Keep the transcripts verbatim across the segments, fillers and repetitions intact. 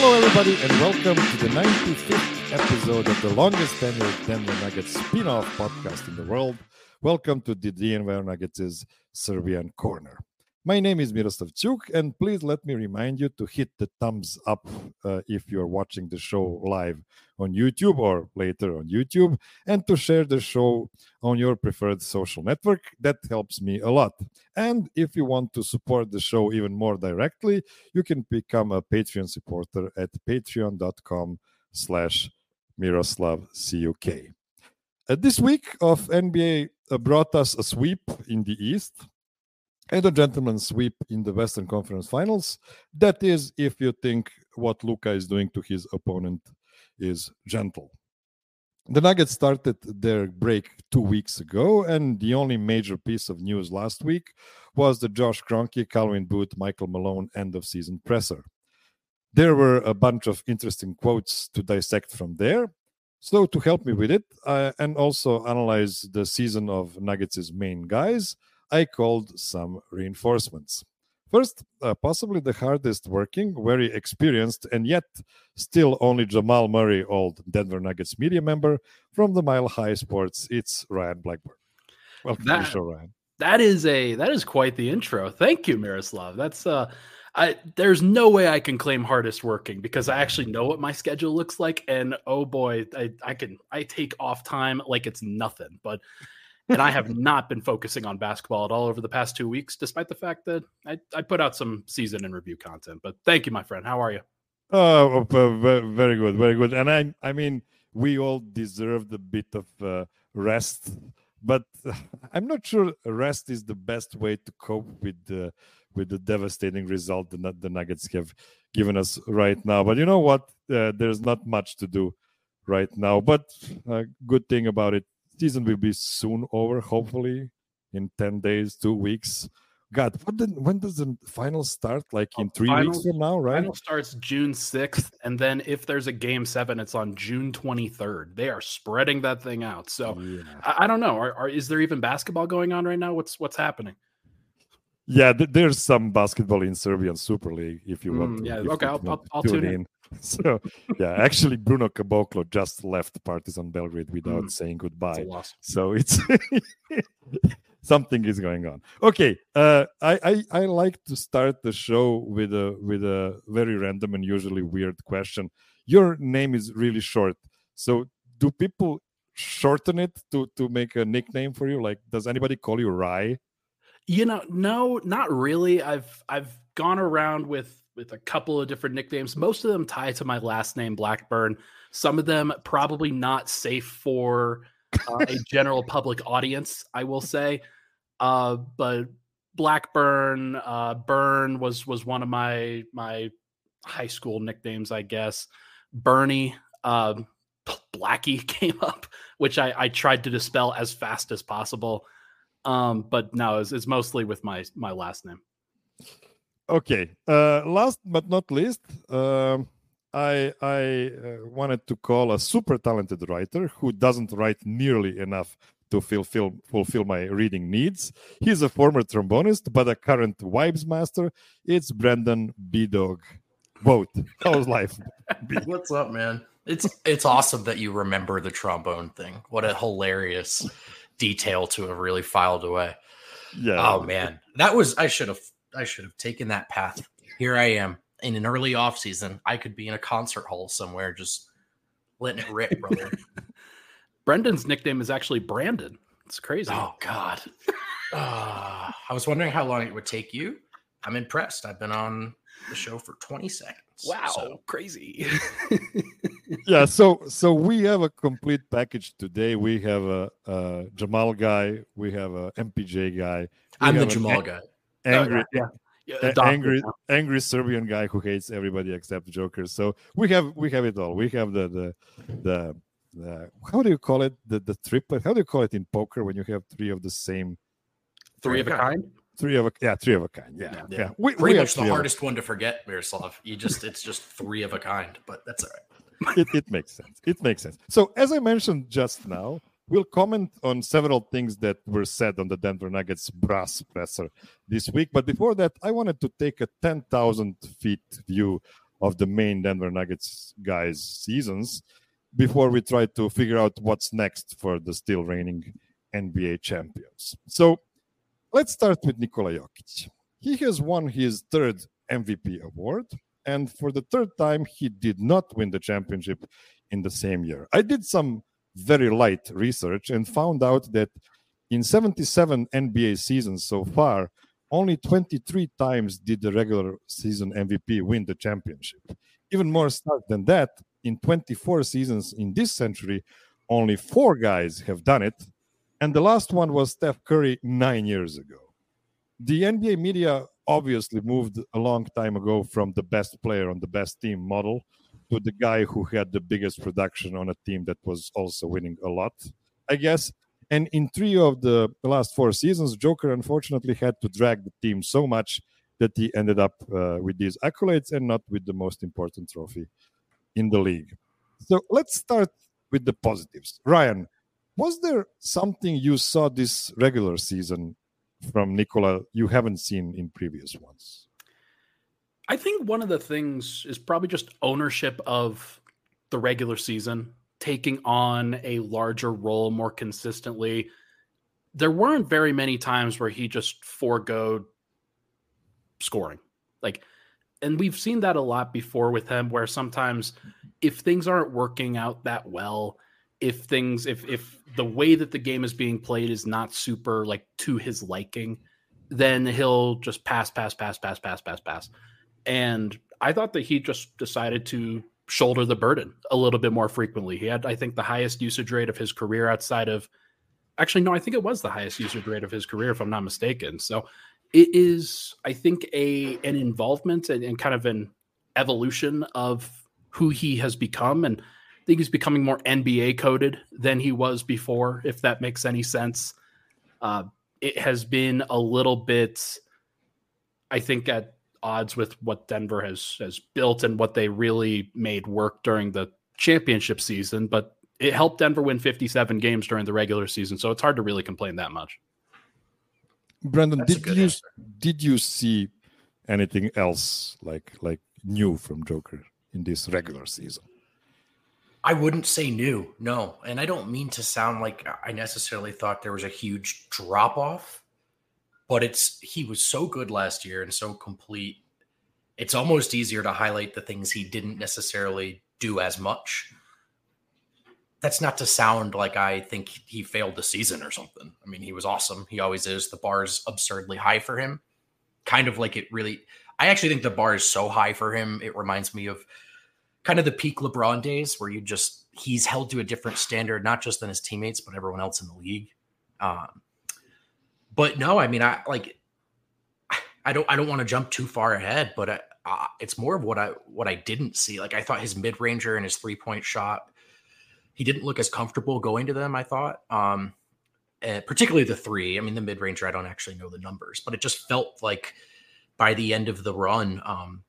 Hello, everybody, and welcome to the ninety-fifth episode of the longest tenured Denver Nuggets spin-off podcast in the world. Welcome to the Denver Nuggets' Serbian Corner. My name is Miroslav Ćuk, and please let me remind you to hit the thumbs up uh, if you're watching the show live on YouTube or later on YouTube, and to share the show on your preferred social network. That helps me a lot. And if you want to support the show even more directly, you can become a Patreon supporter at patreon.com slash Miroslav Cuk. Uh, this week of N B A uh, brought us a sweep in the East and a gentleman's sweep in the Western Conference Finals. That is, if you think what Luka is doing to his opponent is gentle. The Nuggets started their break two weeks ago, and the only major piece of news last week was the Josh Kroenke, Calvin Booth, Michael Malone end-of-season presser. There were a bunch of interesting quotes to dissect from there. So to help me with it, uh, and also analyze the season of Nuggets' main guys, I called some reinforcements. First, uh, possibly the hardest working, very experienced, and yet still only Jamal Murray, old Denver Nuggets media member from the Mile High Sports. It's Ryan Blackburn. Welcome that, to the show, Ryan. That is a that is quite the intro. Thank you, Miroslav. That's uh, I there's no way I can claim hardest working because I actually know what my schedule looks like, and oh boy, I I can I take off time like it's nothing, but. And I have not been focusing on basketball at all over the past two weeks, despite the fact that I, I put out some season and review content. But thank you, my friend. How are you? Oh, very good, very good. And I, I mean, we all deserved a bit of uh, rest, but I'm not sure rest is the best way to cope with the with the devastating result the, the Nuggets have given us right now. But you know what? Uh, there's not much to do right now. But a good thing about it. Season will be soon over, hopefully in ten days, two weeks. God, what did, when does the final start? Like in three final, weeks from now, right? Final starts June sixth, and then if there's a game seven, it's on June twenty-third. They are spreading that thing out. So yeah. I, I don't know. Are, are, is there even basketball going on right now? What's what's happening? Yeah, th- there's some basketball in Serbian Super League if you want. Mm, to, yeah, if okay, you I'll, want I'll, I'll tune tune in. in. So yeah, actually Bruno Caboclo just left Partizan Belgrade without mm, saying goodbye. So it's something is going on. Okay, uh, I, I I like to start the show with a with a very random and usually weird question. Your name is really short, so do people shorten it to to make a nickname for you? Like, does anybody call you Rye? You know, no, not really. I've I've gone around with with a couple of different nicknames. Most of them tie to my last name, Blackburn. Some of them probably not safe for uh, a general public audience, I will say. Uh, but Blackburn, uh, Burn was was one of my my high school nicknames, I guess. Bernie, uh, Blackie came up, which I, I tried to dispel as fast as possible. Um, but no, it's, it's mostly with my my last name. Okay. Uh, last but not least, um, I I uh, wanted to call a super talented writer who doesn't write nearly enough to fulfill fulfill my reading needs. He's a former trombonist, but a current Vibes master. It's Brendan B-Dog. Vote. How's life? What's up, man? It's it's awesome that you remember the trombone thing. What a hilarious detail to have really filed away. Yeah. Oh man, that was I should have. I should have taken that path. Here I am in an early off season. I could be in a concert hall somewhere, just letting it rip, brother. Brendan's nickname is actually Brandon. It's crazy. Oh God. uh, I was wondering how long it would take you. I'm impressed. I've been on the show for twenty seconds. Wow, so. Crazy. Yeah, so so we have a complete package today. We have a, a Jamal guy. We have a M P J guy. We I'm the Jamal guy. Angry, oh, yeah. Yeah, a- angry, angry Serbian guy who hates everybody except jokers. So we have we have it all. We have the the the, the how do you call it? The the triplet. How do you call it in poker when you have three of the same? Three of a kind. Three of a yeah, three of a kind. Yeah, yeah. yeah. We, Pretty we much the hardest one to forget, Miroslav. You just it's just three of a kind, but that's all right. it it makes sense. It makes sense. So as I mentioned just now. We'll comment on several things that were said on the Denver Nuggets brass presser this week. But before that, I wanted to take a ten thousand feet view of the main Denver Nuggets guys' seasons before we try to figure out what's next for the still reigning N B A champions. So let's start with Nikola Jokic. He has won his third M V P award, and for the third time, he did not win the championship in the same year. I did some very light research and found out that in seventy-seven N B A seasons so far, only twenty-three times did the regular season M V P win the championship. Even more stark than that, in twenty-four seasons in this century, only four guys have done it, and the last one was Steph Curry nine years ago. The N B A media obviously moved a long time ago from the best player on the best team model to the guy who had the biggest production on a team that was also winning a lot, I guess. And in three of the last four seasons, Joker unfortunately had to drag the team so much that he ended up uh, with these accolades and not with the most important trophy in the league. So let's start with the positives. Ryan, was there something you saw this regular season from Nikola you haven't seen in previous ones? I think one of the things is probably just ownership of the regular season, taking on a larger role more consistently. There weren't very many times where he just foregoed scoring. Like, and we've seen that a lot before with him, where sometimes if things aren't working out that well, if things, if if the way that the game is being played is not super like to his liking, then he'll just pass, pass, pass, pass, pass, pass, pass. And I thought that he just decided to shoulder the burden a little bit more frequently. He had, I think, the highest usage rate of his career outside of, actually, no, I think it was the highest usage rate of his career, if I'm not mistaken. So it is, I think, a an involvement and, and kind of an evolution of who he has become. And I think he's becoming more N B A coded than he was before, if that makes any sense. Uh, it has been a little bit, I think, at odds with what Denver has has built and what they really made work during the championship season, but it helped Denver win fifty-seven games during the regular season, so it's hard to really complain that much. Brendan, That's did you answer. did you see anything else like like new from Joker in this regular season? I wouldn't say new, no. And I don't mean to sound like I necessarily thought there was a huge drop off, but it's he was so good last year and so complete. It's almost easier to highlight the things he didn't necessarily do as much. That's not to sound like I think he failed the season or something. I mean, he was awesome. He always is. The bar is absurdly high for him. Kind of like it really, I actually think the bar is so high for him. It reminds me of kind of the peak LeBron days where you just, he's held to a different standard, not just than his teammates, but everyone else in the league. Um, But no, I mean, I like, I don't, I don't want to jump too far ahead, but I, uh, it's more of what I, what I didn't see. Like I thought his mid ranger and his three point shot, he didn't look as comfortable going to them. I thought, um, uh, particularly the three. I mean, the mid ranger, I don't actually know the numbers, but it just felt like by the end of the run, um,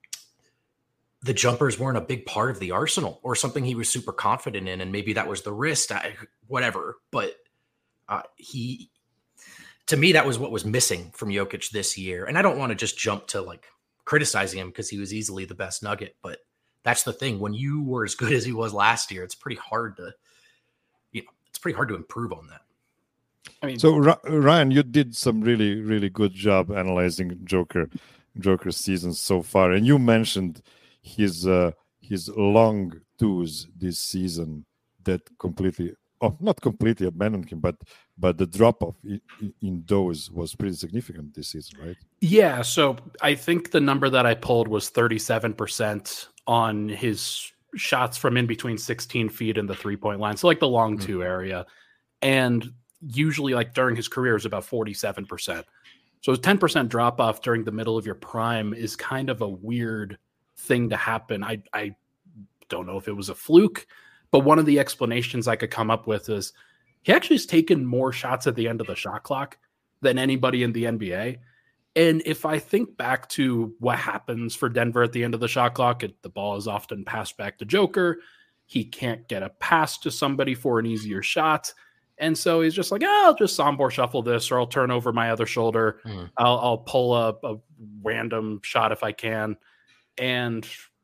the jumpers weren't a big part of the arsenal or something he was super confident in, and maybe that was the wrist, I, whatever. But uh, he. To me, that was what was missing from Jokic this year. And I don't want to just jump to like criticizing him because he was easily the best Nugget. But that's the thing. When you were as good as he was last year, it's pretty hard to, you know, it's pretty hard to improve on that. I mean, so Ryan, you did some really, really good job analyzing Joker, Joker's season so far. And you mentioned his, uh, his long twos this season that completely, oh, not completely abandoned him, but but the drop off in, in those was pretty significant this season, right? Yeah. So I think the number that I pulled was thirty-seven percent on his shots from in between sixteen feet and the three point line. So like the long mm-hmm. two area. And usually like during his career is about forty-seven percent. So a ten percent drop off during the middle of your prime is kind of a weird thing to happen. I, I don't know if it was a fluke, but one of the explanations I could come up with is he actually has taken more shots at the end of the shot clock than anybody in the N B A. And if I think back to what happens for Denver at the end of the shot clock, it, the ball is often passed back to Joker. He can't get a pass to somebody for an easier shot. And so he's just like, oh, I'll just Sombor shuffle this, or I'll turn over my other shoulder. Mm. I'll, I'll pull a, a random shot if I can. And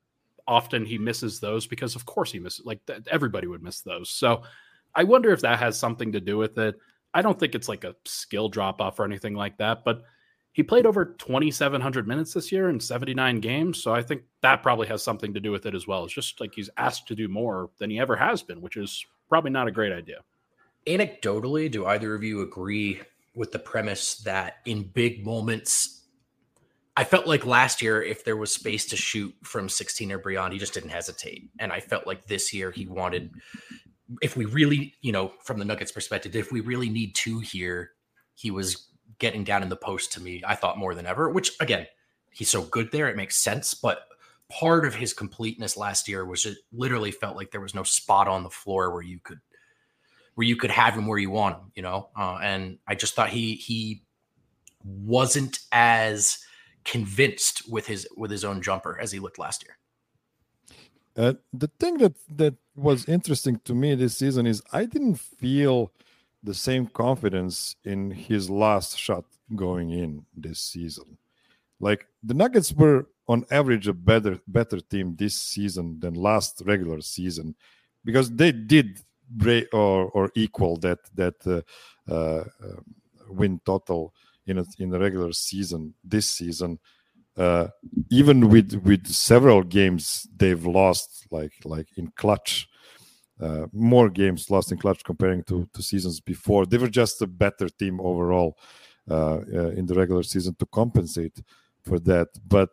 often he misses those because of course he misses, like everybody would miss those. So I wonder if that has something to do with it. I don't think it's like a skill drop off or anything like that, but he played over twenty-seven hundred minutes this year in seventy-nine games. So I think that probably has something to do with it as well. It's just like he's asked to do more than he ever has been, which is probably not a great idea. Anecdotally, do either of you agree with the premise that in big moments, I felt like last year, if there was space to shoot from sixteen or beyond, he just didn't hesitate. And I felt like this year he wanted, if we really, you know, from the Nuggets perspective, if we really need two here, he was getting down in the post to me, I thought, more than ever, which again, he's so good there. It makes sense. But part of his completeness last year was it literally felt like there was no spot on the floor where you could, where you could have him where you want him, you know? Uh, and I just thought he, he wasn't as convinced with his, with his own jumper as he looked last year. Uh, the thing that, that was interesting to me this season is I didn't feel the same confidence in his last shot going in this season. Like the Nuggets were on average a better better team this season than last regular season because they did break or or equal that that uh, uh, win total in a, in the regular season this season. Uh, even with with several games they've lost, like like in clutch. Uh, more games lost in clutch comparing to, to seasons before. They were just a better team overall uh, uh, in the regular season to compensate for that. But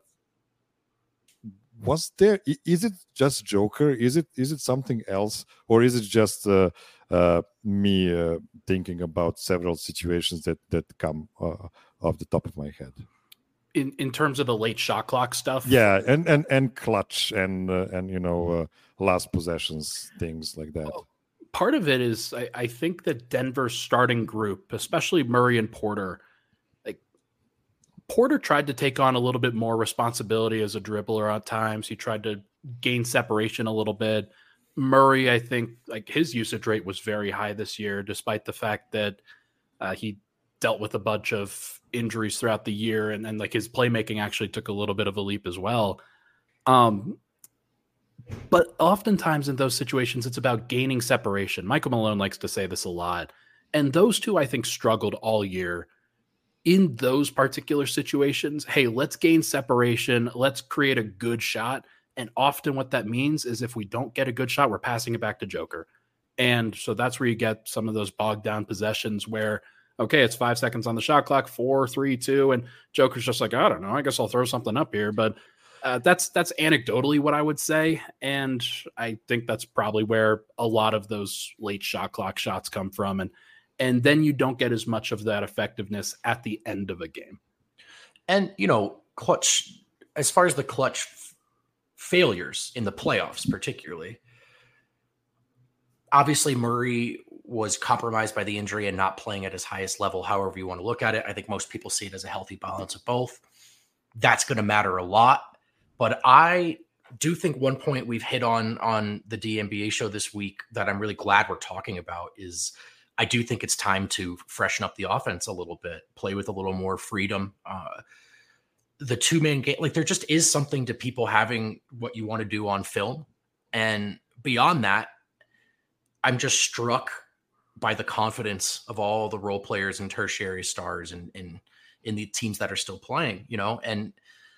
was there? Is it just Joker? Is it is it something else, or is it just uh, uh, me uh, thinking about several situations that that come uh, off the top of my head? In in terms of the late shot clock stuff, yeah, and and and clutch and uh, and you know uh, last possessions, things like that. Well, part of it is I, I think that Denver's starting group, especially Murray and Porter, like Porter tried to take on a little bit more responsibility as a dribbler at times. He tried to gain separation a little bit. Murray, I think, like his usage rate was very high this year, despite the fact that uh, he dealt with a bunch of injuries throughout the year, and then like his playmaking actually took a little bit of a leap as well. Um, but oftentimes in those situations, it's about gaining separation. Michael Malone likes to say this a lot, and those two I think struggled all year in those particular situations. Hey, let's gain separation. Let's create a good shot. And often what that means is if we don't get a good shot, we're passing it back to Joker. And so that's where you get some of those bogged down possessions where, okay, it's five seconds on the shot clock, four, three, two, and Joker's just like, I don't know, I guess I'll throw something up here. But uh, that's that's anecdotally what I would say, and I think that's probably where a lot of those late shot clock shots come from, and and then you don't get as much of that effectiveness at the end of a game. And you know, clutch, as far as the clutch f- failures in the playoffs, particularly, obviously Murray was compromised by the injury and not playing at his highest level, however you want to look at it. I think most people see it as a healthy balance of both. That's going to matter a lot. But I do think one point we've hit on on the D N B A show this week that I'm really glad we're talking about is I do think it's time to freshen up the offense a little bit, play with a little more freedom. Uh, the two-man game, like there just is something to people having what you want to do on film. And beyond that, I'm just struck by the confidence of all the role players and tertiary stars and in, in, in the teams that are still playing, you know, and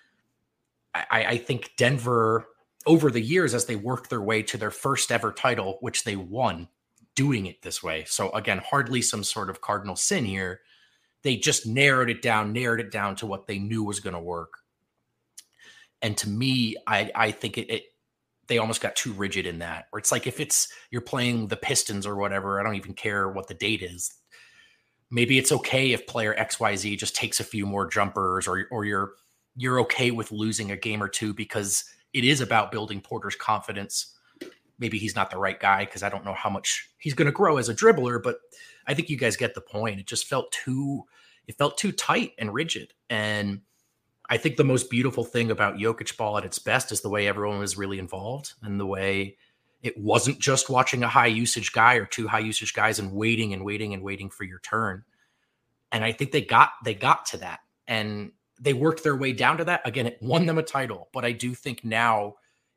I, I think Denver over the years, as they worked their way to their first ever title, which they won doing it this way. So again, hardly some sort of cardinal sin here. They just narrowed it down, narrowed it down to what they knew was going to work. And to me, I, I think it, it, they almost got too rigid in that, where it's like, if it's, you're playing the Pistons or whatever, I don't even care what the date is. Maybe it's okay if player X Y Z just takes a few more jumpers, or, or you're, you're okay with losing a game or two because it is about building Porter's confidence. Maybe he's not the right guy because I don't know how much he's going to grow as a dribbler, but I think you guys get the point. It just felt too, it felt too tight and rigid. And I think the most beautiful thing about Jokic ball at its best is the way everyone was really involved, and the way it wasn't just watching a high usage guy or two high usage guys and waiting and waiting and waiting for your turn. And I think they got, they got to that, and they worked their way down to that. Again, it won them a title, but I do think now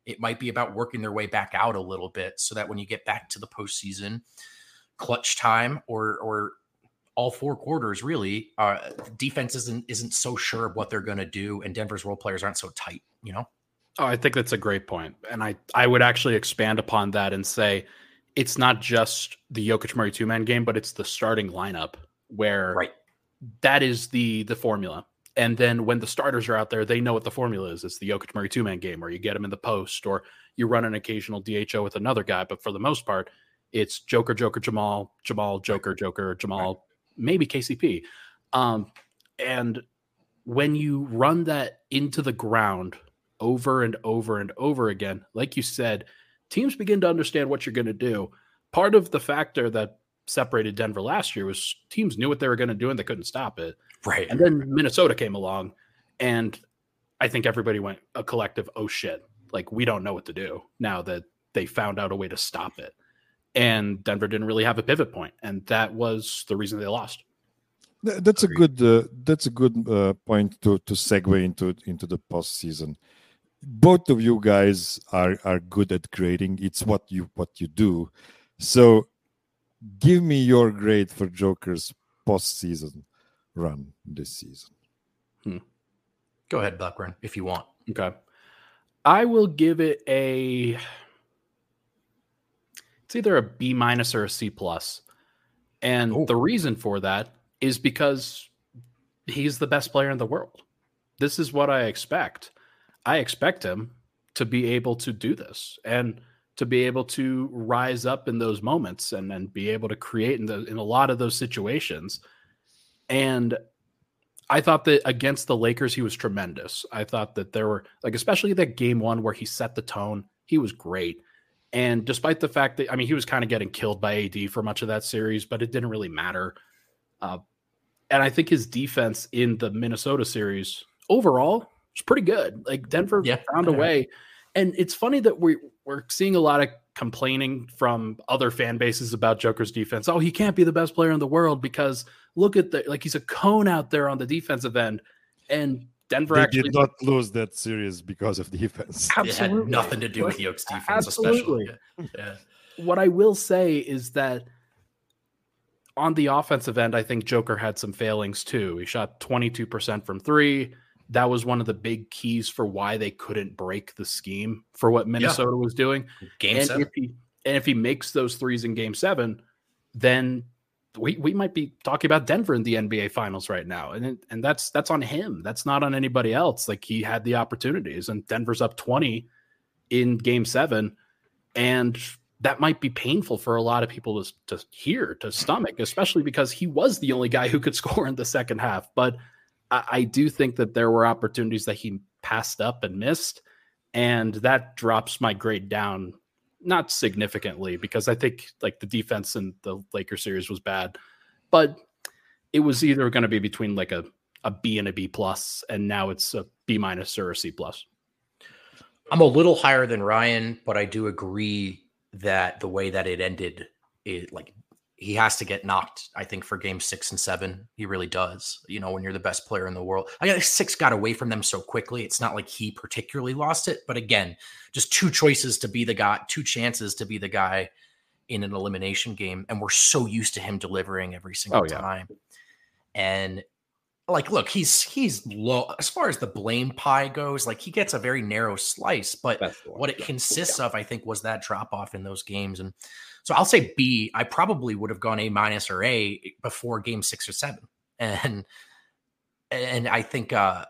It might be about working their way back out a little bit so that when you get back to the postseason, clutch time or or all four quarters, really, uh, defense isn't isn't so sure of what they're going to do, and Denver's role players aren't so tight, you know? Oh, I think that's a great point. And I, I would actually expand upon that and say it's not just the Jokic Murray two-man game, but it's the starting lineup where right. that is the the formula. And then when the starters are out there, they know what the formula is. It's the Jokic Murray two-man game, or you get them in the post, or you run an occasional D H O with another guy. But for the most part, it's Joker, Joker, Jamal, Jamal, Joker, Joker, Jamal, maybe K C P. Um, and when you run that into the ground over and over and over again, like you said, teams begin to understand what you're going to do. Part of the factor that separated Denver last year was teams knew what they were going to do and they couldn't stop it. Right. And then Minnesota came along, and I think everybody went a collective, oh shit, like we don't know what to do now that they found out a way to stop it. And Denver didn't really have a pivot point, and that was the reason they lost. That's Agreed. a good. Uh, that's a good uh, point to to segue into into the postseason. Both of you guys are are good at grading. It's what you what you do. So, give me your grade for Joker's postseason run this season. Hmm. Go ahead, Blackburn, if you want. Okay, I will give it a. It's either a B minus or a C plus. And Ooh. the reason for that is because he's the best player in the world. This is what I expect. I expect him to be able to do this and to be able to rise up in those moments and, and be able to create in, the, in a lot of those situations. And I thought that against the Lakers, he was tremendous. I thought that there were, like, especially that game one where he set the tone, he was great. And despite the fact that, I mean, he was kind of getting killed by A D for much of that series, but it didn't really matter. Uh, and I think his defense in the Minnesota series overall was pretty good. Like Denver yeah, found a way. And it's funny that we, we're seeing a lot of complaining from other fan bases about Joker's defense. Oh, he can't be the best player in the world because look at the, like he's a cone out there on the defensive end. And Denver they actually did not lose that series because of defense. Absolutely. It had nothing to do with Yoke's defense, Absolutely. especially. Yeah. What I will say is that on the offensive end, I think Joker had some failings too. He shot twenty-two percent from three. That was one of the big keys for why they couldn't break the scheme for what Minnesota yeah. was doing. Game and seven. If he, and if he makes those threes in game seven, then we we might be talking about Denver in the N B A finals right now. And, and that's, that's on him. That's not on anybody else. Like he had the opportunities and Denver's up twenty in game seven. And that might be painful for a lot of people to, to hear, to stomach, especially because he was the only guy who could score in the second half. But I, I do think that there were opportunities that he passed up and missed. And that drops my grade down, not significantly, because I think like the defense in the Lakers series was bad, but it was either going to be between like a, a B and a B plus, and now it's a B minus or a C plus. I'm a little higher than Ryan, but I do agree that the way that it ended, it like he has to get knocked, I think, for game six and seven. He really does. You know, when you're the best player in the world, I guess six got away from them so quickly. It's not like he particularly lost it, but again, just two choices to be the guy, two chances to be the guy in an elimination game. And we're so used to him delivering every single oh, yeah. time. And like, look, he's, he's low as far as the blame pie goes. Like he gets a very narrow slice, but what it consists yeah. of, I think, was that drop off in those games. And so I'll say B. I probably would have gone A minus or A before game six or seven. And, and I think, uh,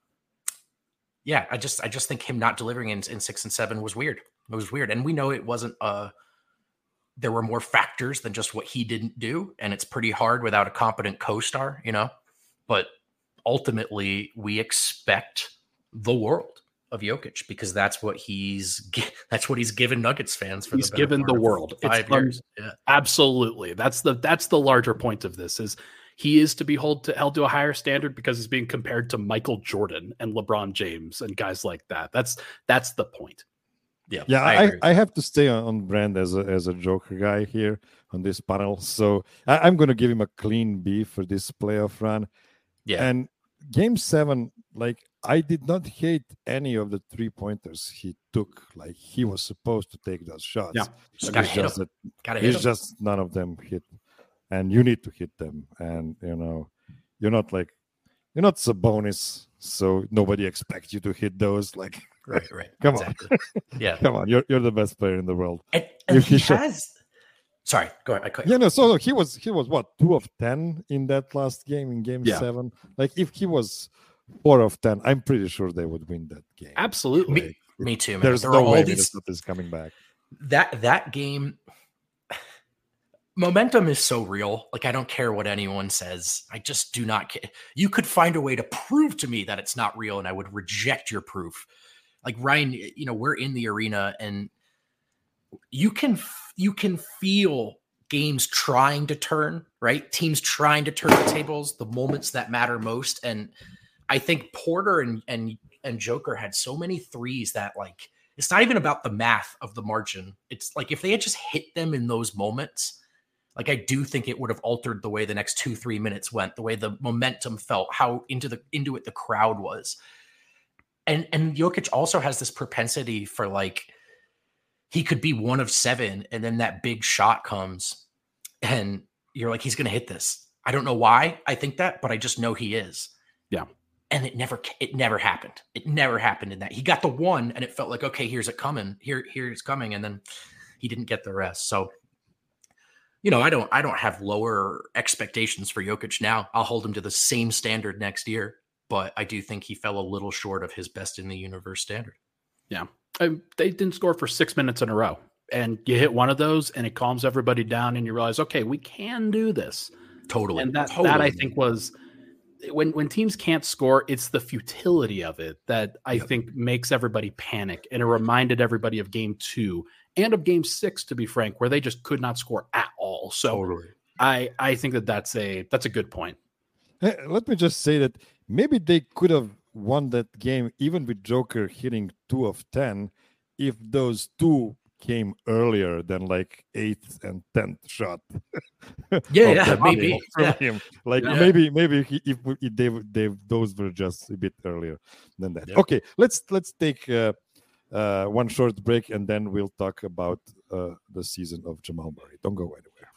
yeah, I just, I just think him not delivering in, in six and seven was weird. It was weird. And we know it wasn't, uh, there were more factors than just what he didn't do. And it's pretty hard without a competent co-star, you know, but ultimately we expect the world of Jokic because that's what he's that's what he's given Nuggets fans for. He's the given the world five years. Yeah. Absolutely, that's the that's the larger point of this is he is to be held to held to a higher standard because he's being compared to Michael Jordan and LeBron James and guys like that. That's that's the point. Yeah, yeah. I, I, I have to stay on, on brand as a as a Joker guy here on this panel, so I, I'm going to give him a clean B for this playoff run. Yeah, and game seven, like I did not hate any of the three pointers he took. Like he was supposed to take those shots. Yeah, just gotta hit just him. that Gotta hit it's him. just none of them hit, and you need to hit them. And you know, you're not like you're not Sabonis, so nobody expects you to hit those. Like, Right, right. come exactly. on, Yeah. come on, you're you're the best player in the world. And, and If he he should- has. Sorry, go ahead. I cut Yeah, no. So he was he was what two of ten in that last game in Game Yeah. Seven. Like if he was four of ten, I'm pretty sure they would win that game. Absolutely. Me, me too, man. There's There no were all way these Minnesota is coming back. that that game. Momentum is so real. Like I don't care what anyone says. I just do not care. You could find a way to prove to me that it's not real, and I would reject your proof. Like Ryan, you know, we're in the arena, and you can you can feel games trying to turn, right? Teams trying to turn the tables, the moments that matter most. And I think Porter and and and Joker had so many threes that like it's not even about the math of the margin. It's like if they had just hit them in those moments, like I do think it would have altered the way the next two, three minutes went, the way the momentum felt, how into the into it the crowd was. And and Jokic also has this propensity for like he could be one of seven, and then that big shot comes, and you're like, he's going to hit this. I don't know why I think that, but I just know he is. Yeah. And it never, it never happened. It never happened in that. He got the one, and it felt like, okay, here's it coming. Here, here's coming, and then he didn't get the rest. So, you know, I don't, I don't have lower expectations for Jokic now. I'll hold him to the same standard next year, but I do think he fell a little short of his best in the universe standard. Yeah. Um, they didn't score for six minutes in a row. And you hit one of those and it calms everybody down and you realize, okay, we can do this. Totally. And that, totally. that I think was when, when teams can't score, it's the futility of it that I Yep. think makes everybody panic. And it reminded everybody of game two and of game six, to be frank, where they just could not score at all. So Totally. I, I think that that's a, that's a good point. Hey, let me just say that maybe they could have won that game even with Joker hitting two of ten if those two came earlier than like eighth and tenth shot. Yeah, of yeah, that maybe. game from Yeah. him. Like Yeah. maybe maybe he, if, we- if they, they those were just a bit earlier than that. Yeah. Okay, let's let's take uh, uh, one short break and then we'll talk about uh, the season of Jamal Murray. Don't go anywhere.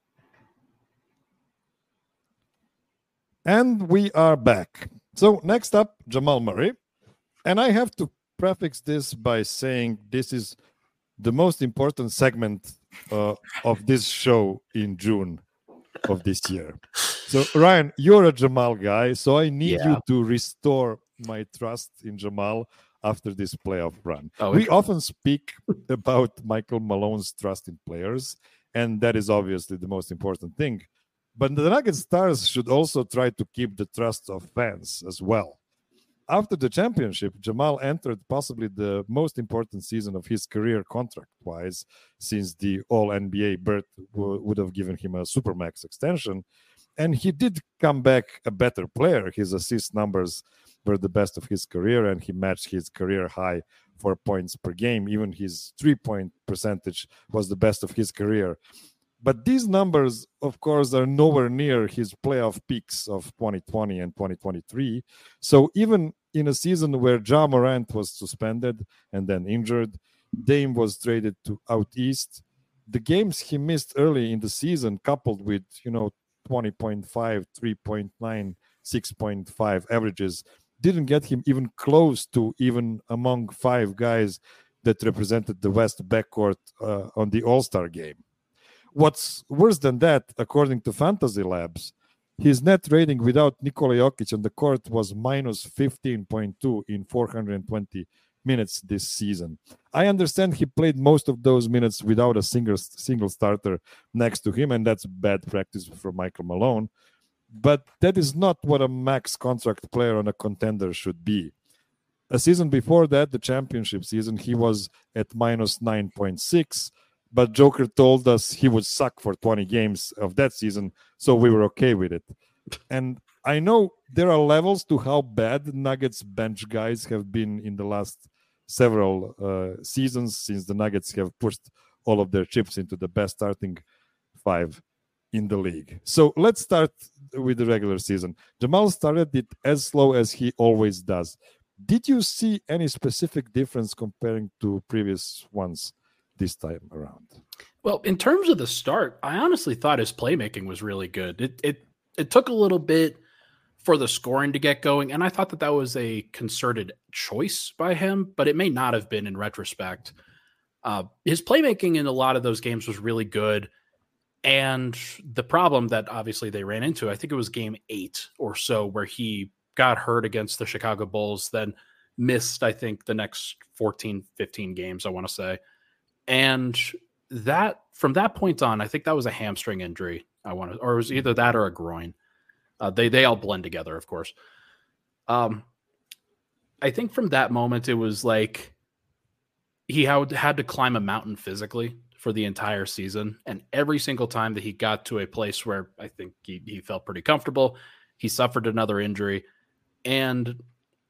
And we are back. So next up, Jamal Murray. And I have to prefix this by saying this is the most important segment uh, of this show in June of this year. So Ryan, you're a Jamal guy, so I need Yeah. you to restore my trust in Jamal after this playoff run. Oh, we often speak about Michael Malone's trust in players, and that is obviously the most important thing. But the Nuggets stars should also try to keep the trust of fans as well. After the championship, Jamal entered possibly the most important season of his career contract-wise, since the All-N B A berth w- would have given him a Supermax extension. And he did come back a better player. His assist numbers were the best of his career, and he matched his career high for points per game. Even his three-point percentage was the best of his career. But these numbers, of course, are nowhere near his playoff peaks of twenty twenty and twenty twenty-three. So even in a season where Ja Morant was suspended and then injured, Dame was traded to out east. The games he missed early in the season, coupled with, you know, twenty point five, three point nine, six point five averages, didn't get him even close to even among five guys that represented the West backcourt uh, on the All-Star game. What's worse than that, according to Fantasy Labs, his net rating without Nikola Jokic on the court was minus fifteen point two in four hundred twenty minutes this season. I understand he played most of those minutes without a single, single starter next to him, and that's bad practice for Michael Malone. But that is not what a max contract player on a contender should be. A season before that, the championship season, he was at minus nine point six, but Joker told us he would suck for twenty games of that season, so we were okay with it. And I know there are levels to how bad Nuggets bench guys have been in the last several uh, seasons, since the Nuggets have pushed all of their chips into the best starting five in the league. So let's start with the regular season. Jamal started it as slow as he always does. Did you see any specific difference comparing to previous ones this time around? Well, in terms of the start, I honestly thought his playmaking was really good. It it it took a little bit for the scoring to get going, and I thought that that was a concerted choice by him, but it may not have been in retrospect. Uh, his playmaking in a lot of those games was really good, and the problem that obviously they ran into, I think it was game eight or so, where he got hurt against the Chicago Bulls, then missed, I think, the next fourteen, fifteen games, I want to say. And that from that point on, I think that was a hamstring injury. I want to, or it was either that or a groin. Uh, they they all blend together, of course. Um, I think from that moment, it was like he had, had to climb a mountain physically for the entire season. And every single time that he got to a place where I think he, he felt pretty comfortable, he suffered another injury. And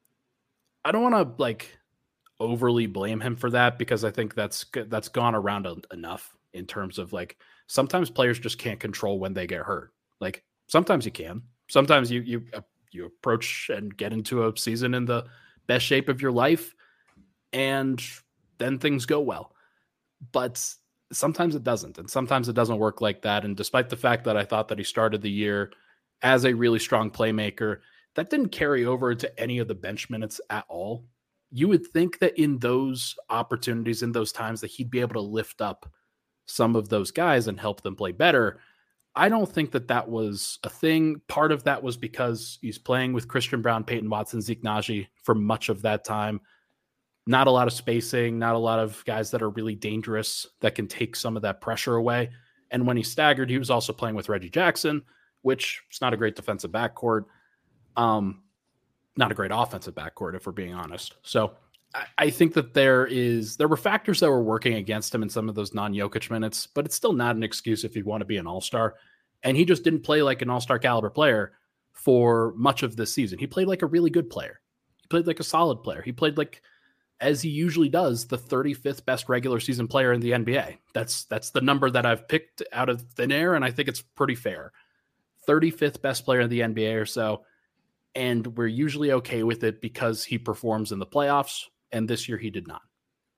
I don't want to like overly blame him for that, because I think that's that's gone around a, enough in terms of like sometimes players just can't control when they get hurt. Like sometimes you can. Sometimes you you you approach and get into a season in the best shape of your life, and then things go well. But sometimes it doesn't, and sometimes it doesn't work like that. And despite the fact that I thought that he started the year as a really strong playmaker, that didn't carry over to any of the bench minutes at all. You would think that in those opportunities, in those times, that he'd be able to lift up some of those guys and help them play better. I don't think that that was a thing. Part of that was because he's playing with Christian Braun, Peyton Watson, Zeke Naji for much of that time. Not a lot of spacing, not a lot of guys that are really dangerous that can take some of that pressure away. And when he staggered, he was also playing with Reggie Jackson, which is not a great defensive backcourt. Um, not a great offensive backcourt, if we're being honest. So I, I think that there is, there were factors that were working against him in some of those non-Jokic minutes, but it's still not an excuse if you want to be an all-star. And he just didn't play like an all-star caliber player for much of this season. He played like a really good player. He played like a solid player. He played like, as he usually does, the thirty-fifth best regular season player in the N B A. That's, that's the number that I've picked out of thin air, and I think it's pretty fair. thirty-fifth best player in the N B A or so. And we're usually okay with it because he performs in the playoffs. And this year he did not.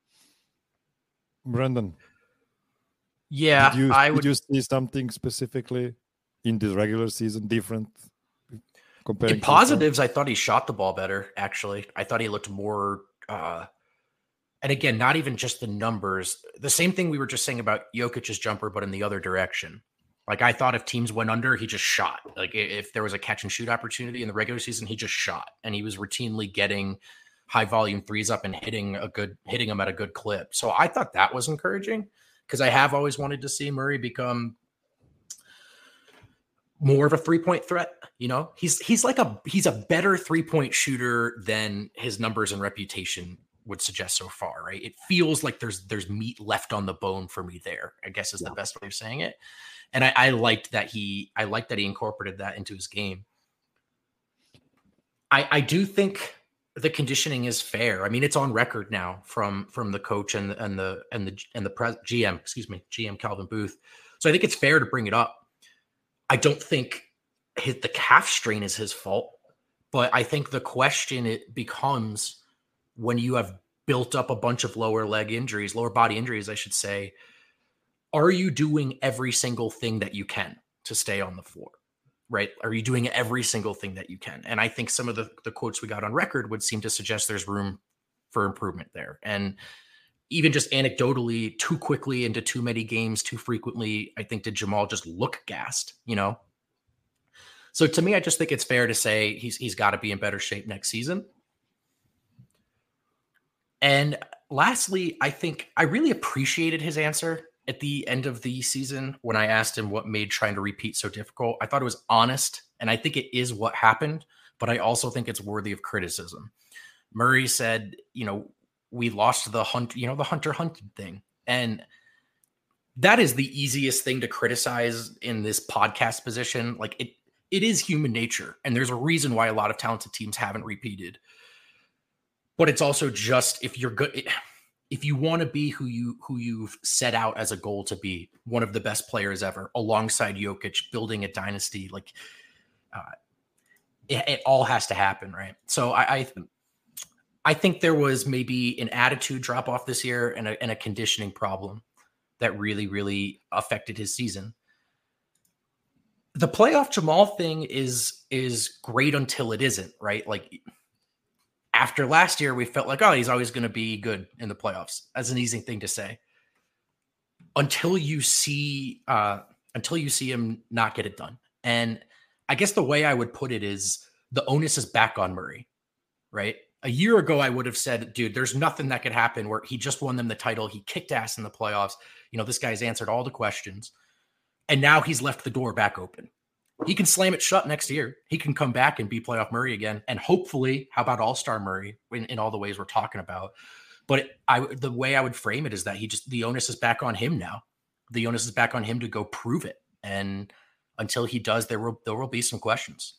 Brendan. Yeah, did you, I did would you see something specifically in this regular season different? Comparing in positives, I thought he shot the ball better, actually. I thought he looked more, uh, and again, not even just the numbers. The same thing we were just saying about Jokic's jumper, but in the other direction. Like, I thought if teams went under, he just shot. Like, if there was a catch and shoot opportunity in the regular season, he just shot. And he was routinely getting high volume threes up and hitting a good, hitting them at a good clip. So I thought that was encouraging, because I have always wanted to see Murray become more of a three-point threat. You know, he's, he's like a, he's a better three-point shooter than his numbers and reputation would suggest so far, right? It feels like there's, there's meat left on the bone for me there, I guess is yeah. the best way of saying it. And I, I liked that he, I liked that he incorporated that into his game. I, I do think the conditioning is fair. I mean, it's on record now from, from the coach and and the and the and the pres, G M, excuse me, G M Calvin Booth. So I think it's fair to bring it up. I don't think hit the calf strain is his fault, but I think the question it becomes when you have built up a bunch of lower leg injuries, lower body injuries, I should say. Are you doing every single thing that you can to stay on the floor, right? Are you doing every single thing that you can? And I think some of the, the quotes we got on record would seem to suggest there's room for improvement there. And even just anecdotally, too quickly into too many games, too frequently, I think did Jamal just look gassed, you know? So to me, I just think it's fair to say he's he's got to be in better shape next season. And lastly, I think I really appreciated his answer at the end of the season when I asked him what made trying to repeat so difficult. I thought it was honest, and I think it is what happened, but I also think it's worthy of criticism. Murray said, you know, we lost the hunt, you know, the Hunter hunted thing. And that is the easiest thing to criticize in this podcast position. Like it, it is human nature. And there's a reason why a lot of talented teams haven't repeated, but it's also just, if you're good, if you want to be who you, who you've set out as a goal to be, one of the best players ever alongside Jokic, building a dynasty, like uh, it, it all has to happen. Right. So I, I I think there was maybe an attitude drop off this year and a, and a conditioning problem that really, really affected his season. The playoff Jamal thing is is great until it isn't, right? Like after last year, we felt like, oh, he's always going to be good in the playoffs. That's an easy thing to say. Until you see, uh, until you see him not get it done. And I guess the way I would put it is the onus is back on Murray, right? A year ago, I would have said, dude, there's nothing that could happen where he just won them the title. He kicked ass in the playoffs. You know, this guy's answered all the questions. And now he's left the door back open. He can slam it shut next year. He can come back and be playoff Murray again. And hopefully, how about all-star Murray in, in all the ways we're talking about? But it, I, the way I would frame it is that he just, the onus is back on him now. The onus is back on him to go prove it. And until he does, there will, there will be some questions.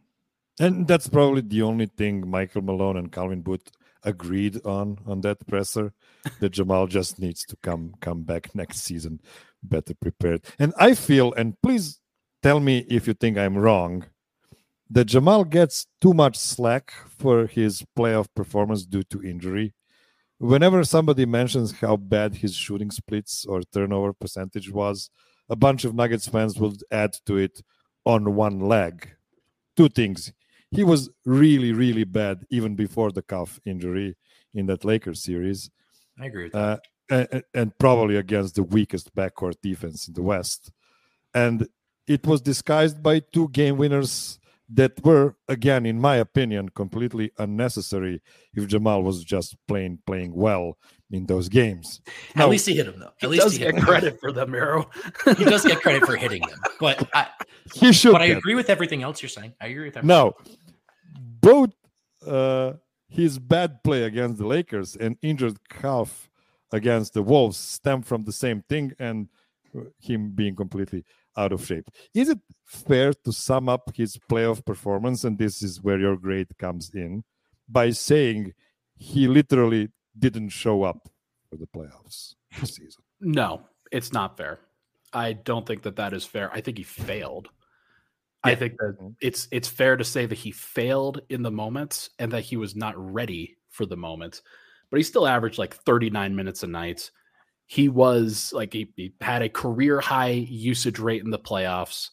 And that's probably the only thing Michael Malone and Calvin Booth agreed on, on that presser, that Jamal just needs to come, come back next season better prepared. And I feel, and please tell me if you think I'm wrong, that Jamal gets too much slack for his playoff performance due to injury. Whenever somebody mentions how bad his shooting splits or turnover percentage was, a bunch of Nuggets fans will add to it on one leg. Two things. He was really, really bad even before the calf injury in that Lakers series. I agree with that. Uh, and, and probably against the weakest backcourt defense in the West. And it was disguised by two game winners that were, again, in my opinion, completely unnecessary if Jamal was just playing playing well in those games. At now, least he hit them, though. At he least does he get hit credit for them, Arrow. He does get credit for hitting them. But I, he should. But I get. agree with everything else you're saying. I agree with everything. Now, both uh, his bad play against the Lakers and injured calf against the Wolves stem from the same thing, and him being completely out of shape. Is it fair to sum up his playoff performance, and this is where your grade comes in, by saying he literally didn't show up for the playoffs this season? No, it's not fair. I don't think that that is fair. I think he failed. Yeah. I think that it's it's fair to say that he failed in the moments and that he was not ready for the moments, but he still averaged like thirty-nine minutes a night. He was like, he, he had a career high usage rate in the playoffs.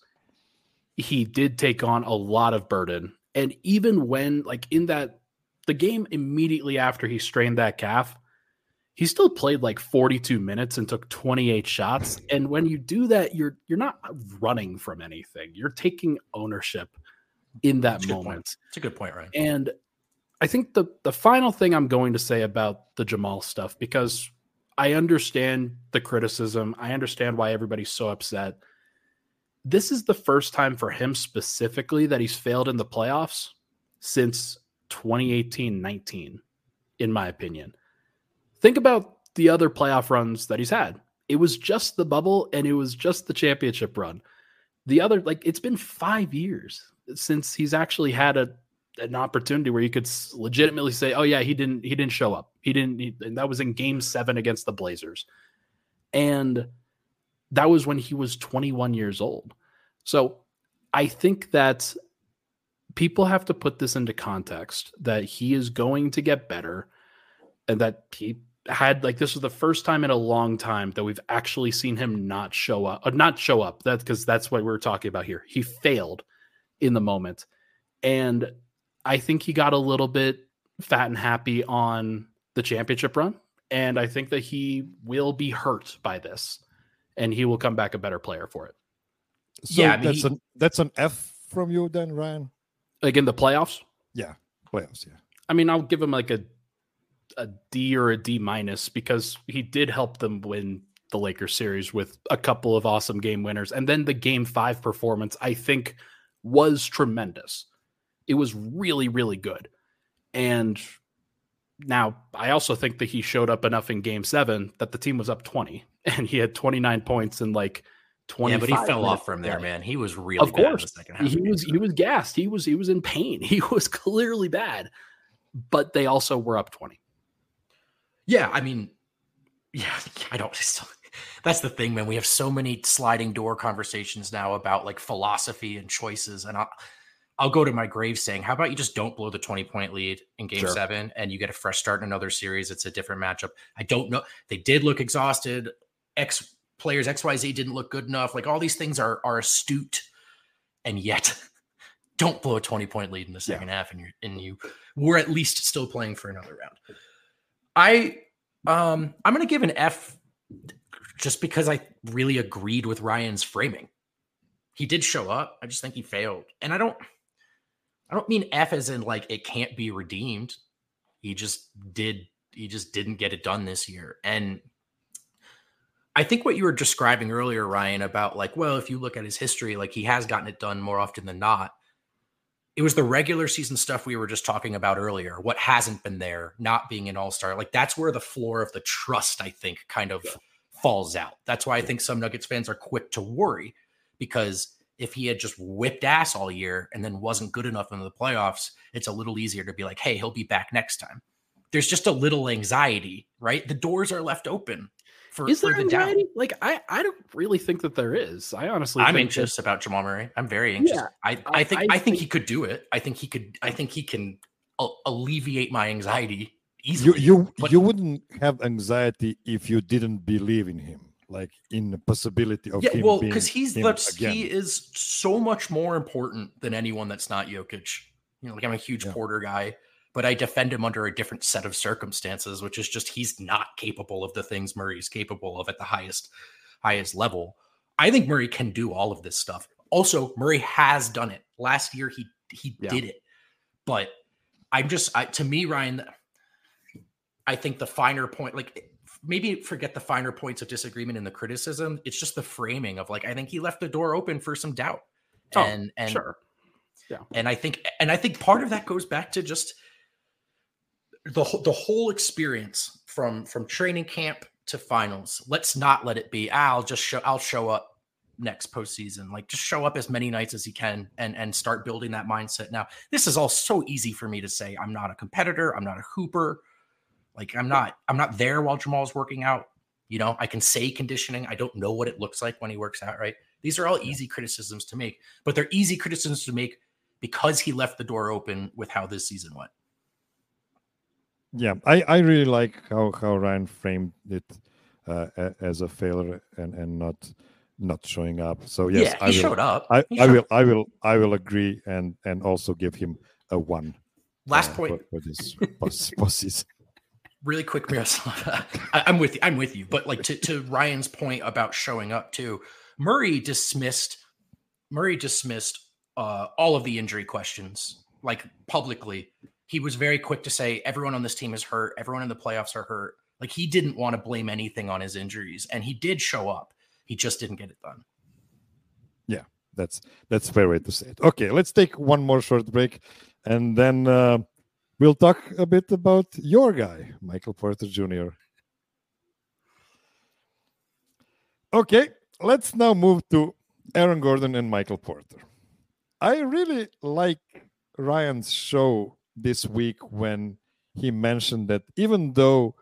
He did take on a lot of burden. And even when, like, in that, the game immediately after he strained that calf, he still played like forty-two minutes and took twenty-eight shots. And when you do that, you're, you're not running from anything. You're taking ownership in that moment. It's a good point, right? And I think the, the final thing I'm going to say about the Jamal stuff, because I understand the criticism. I understand why everybody's so upset. This is the first time for him specifically that he's failed in the playoffs since twenty eighteen nineteen, in my opinion. Think about the other playoff runs that he's had. It was just the bubble and it was just the championship run. The other, like, it's been five years since he's actually had a an opportunity where you could legitimately say, oh yeah, he didn't, he didn't show up. He didn't, he, and that was in game seven against the Blazers. And that was when he was twenty-one years old. So I think that people have to put this into context, that he is going to get better and that he had, like, this was the first time in a long time that we've actually seen him not show up, or not show up. That's because that's what we're talking about here. He failed in the moment. And I think he got a little bit fat and happy on the championship run. And I think that he will be hurt by this and he will come back a better player for it. So yeah, I mean, that's, he, an, that's an F from you then, Ryan? Like in the playoffs? Yeah, playoffs, yeah. I mean, I'll give him like a a D or a D minus because he did help them win the Lakers series with a couple of awesome game winners. And then the game five performance, I think, was tremendous. It was really, really good. And now I also think that he showed up enough in game seven that the team was up twenty and he had twenty-nine points in like twenty-five. Yeah, but he fell minutes. off from there, man. He was really of bad course. in the second half. He was, he was gassed. He was, he was in pain. He was clearly bad, but they also were up twenty. Yeah. I mean, yeah, I don't, still, that's the thing, man. We have so many sliding door conversations now about like philosophy and choices. And I, I'll go to my grave saying, how about you just don't blow the twenty point lead in game Sure. seven and you get a fresh start in another series. It's a different matchup. I don't know. They did look exhausted. X players X Y Z didn't look good enough. Like all these things are, are astute, and yet don't blow a twenty point lead in the second yeah. half. And you're, and you were at least still playing for another round. I, um, I'm going to give an F just because I really agreed with Ryan's framing. He did show up. I just think he failed. And I don't, I don't mean F as in like, it can't be redeemed. He just did. He just didn't get it done this year. And I think what you were describing earlier, Ryan, about like, well, if you look at his history, like he has gotten it done more often than not. It was the regular season stuff we were just talking about earlier. What hasn't been there, not being an all-star. Like that's where the floor of the trust, I think, kind of yeah. falls out. That's why I think some Nuggets fans are quick to worry, because if he had just whipped ass all year and then wasn't good enough in the playoffs, it's a little easier to be like, hey, he'll be back next time. There's just a little anxiety, right? The doors are left open. For, is there for the anxiety? doubt. Like I, I don't really think that there is. I honestly, I'm think anxious that, about Jamal Murray. I'm very anxious. Yeah, I, I think, I, I think think he could do it. I think he could. I think he can alleviate my anxiety easily. You, you, but, you wouldn't have anxiety if you didn't believe in him, like in the possibility of yeah, him. well, being because he's him that's again. he is so much more important than anyone that's not Jokic. You know, like I'm a huge Yeah. Porter guy. But I defend him under a different set of circumstances, which is just he's not capable of the things Murray's capable of at the highest, highest level. I think Murray can do all of this stuff. Also, Murray has done it. Last year, he he Yeah. did it. But I'm just, I, to me, Ryan, I think the finer point, like maybe forget the finer points of disagreement in the criticism. It's just the framing of like, I think he left the door open for some doubt. Oh, and and sure. Yeah. And I think, and I think part of that goes back to just the the whole experience from from training camp to finals. Let's not let it be, ah, I'll just show I'll show up next postseason. Like just show up as many nights as you can and and start building that mindset. Now, this is all so easy for me to say. I'm not a competitor. I'm not a hooper. Like I'm not I'm not there while Jamal's working out. You know, I can say conditioning. I don't know what it looks like when he works out, right? These are all easy criticisms to make, but they're easy criticisms to make because he left the door open with how this season went. Yeah, I, I really like how, how Ryan framed it uh, a, as a failure and, and not not showing up. So yes, yeah, he I will, showed up. I, He I showed will I will I will agree and and also give him a one. Last uh, point for, for this post, postseason. Really quick, Miroslav. I, I'm with you. I'm with you. But like to, to Ryan's point about showing up too, Murray dismissed Murray dismissed uh, all of the injury questions like publicly. He was very quick to say everyone on this team is hurt. Everyone in the playoffs are hurt. Like he didn't want to blame anything on his injuries, and he did show up. He just didn't get it done. Yeah, that's that's a fair way to say it. Okay, let's take one more short break, and then uh, we'll talk a bit about your guy, Michael Porter Junior Okay, let's now move to Aaron Gordon and Michael Porter. I really like Ryan's show this week when he mentioned that even though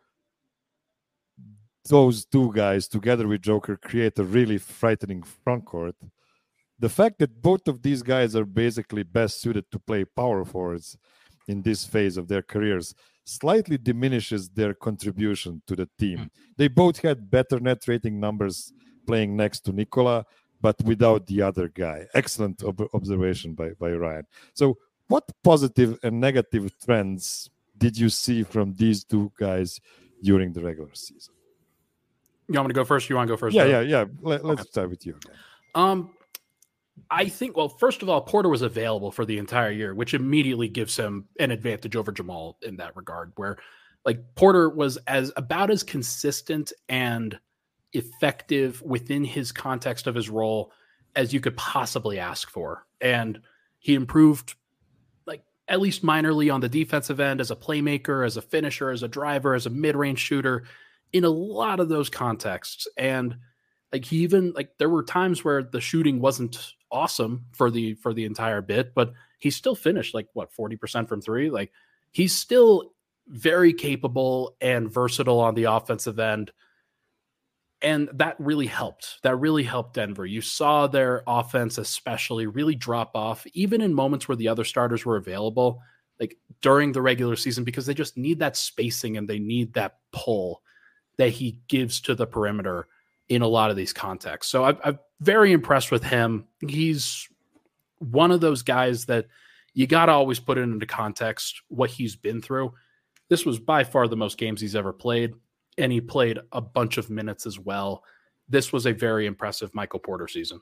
those two guys together with Joker create a really frightening frontcourt, the fact that both of these guys are basically best suited to play power forwards in this phase of their careers slightly diminishes their contribution to the team. Mm. They both had better net rating numbers playing next to Nikola, but without the other guy. Excellent ob- observation by, by Ryan. So what positive and negative trends did you see from these two guys during the regular season? You want me to go first? You want to go first? Yeah, though? yeah, yeah. Let, let's Okay. start with you again. Um, I think, well, first of all, Porter was available for the entire year, which immediately gives him an advantage over Jamal in that regard, where like Porter was as about as consistent and effective within his context of his role as you could possibly ask for. And he improved like at least minorly on the defensive end as a playmaker, as a finisher, as a driver, as a mid-range shooter in a lot of those contexts. And like he even like there were times where the shooting wasn't awesome for the for the entire bit, but he still finished like what forty percent from three. Like he's still very capable and versatile on the offensive end. And that really helped. That really helped Denver. You saw their offense especially really drop off, even in moments where the other starters were available, like during the regular season, because they just need that spacing and they need that pull that he gives to the perimeter in a lot of these contexts. So I've, I'm very impressed with him. He's one of those guys that you got to always put it into context what he's been through. This was by far the most games he's ever played, and he played a bunch of minutes as well. This was a very impressive Michael Porter season.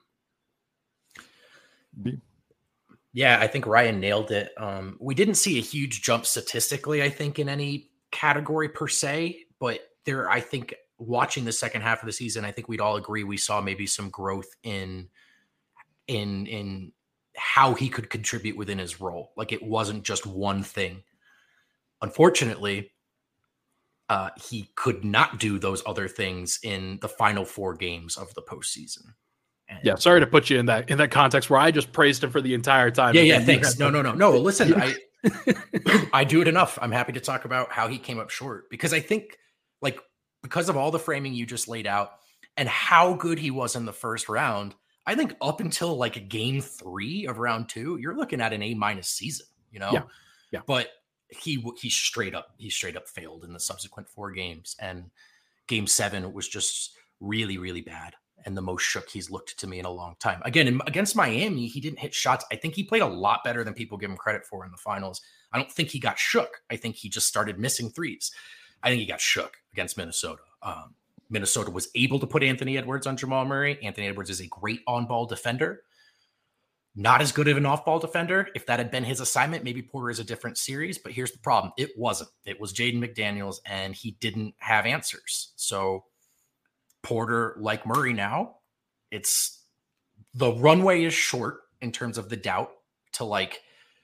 B. Yeah, I think Ryan nailed it. Um, we didn't see a huge jump statistically, I think, in any category per se, but there, I think, watching the second half of the season, I think we'd all agree we saw maybe some growth in in in how he could contribute within his role. Like, it wasn't just one thing. Unfortunately, uh, he could not do those other things in the final four games of the postseason. And yeah, sorry to put you in that in that context where I just praised him for the entire time. Yeah, yeah, thanks. No, no, no, no. Listen, I I do it enough. I'm happy to talk about how he came up short, because I think, like, because of all the framing you just laid out and how good he was in the first round, I think up until like game three of round two, you're looking at an A minus season, you know? Yeah. Yeah. But he he straight up he straight up failed in the subsequent four games, and game seven was just really, really bad, and the most shook he's looked to me in a long time. Again, in, against Miami, he didn't hit shots. I think he played a lot better than people give him credit for in the finals. I don't think he got shook. I think he just started missing threes. I think he got shook against Minnesota. Um, Minnesota was able to put Anthony Edwards on Jamal Murray. Anthony Edwards is a great on-ball defender. Not as good of an off-ball defender. If that had been his assignment, maybe Porter is a different series. But here's the problem. It wasn't. It was Jaden McDaniels, and he didn't have answers. So Porter, like Murray now, it's the runway is short in terms of the doubt to like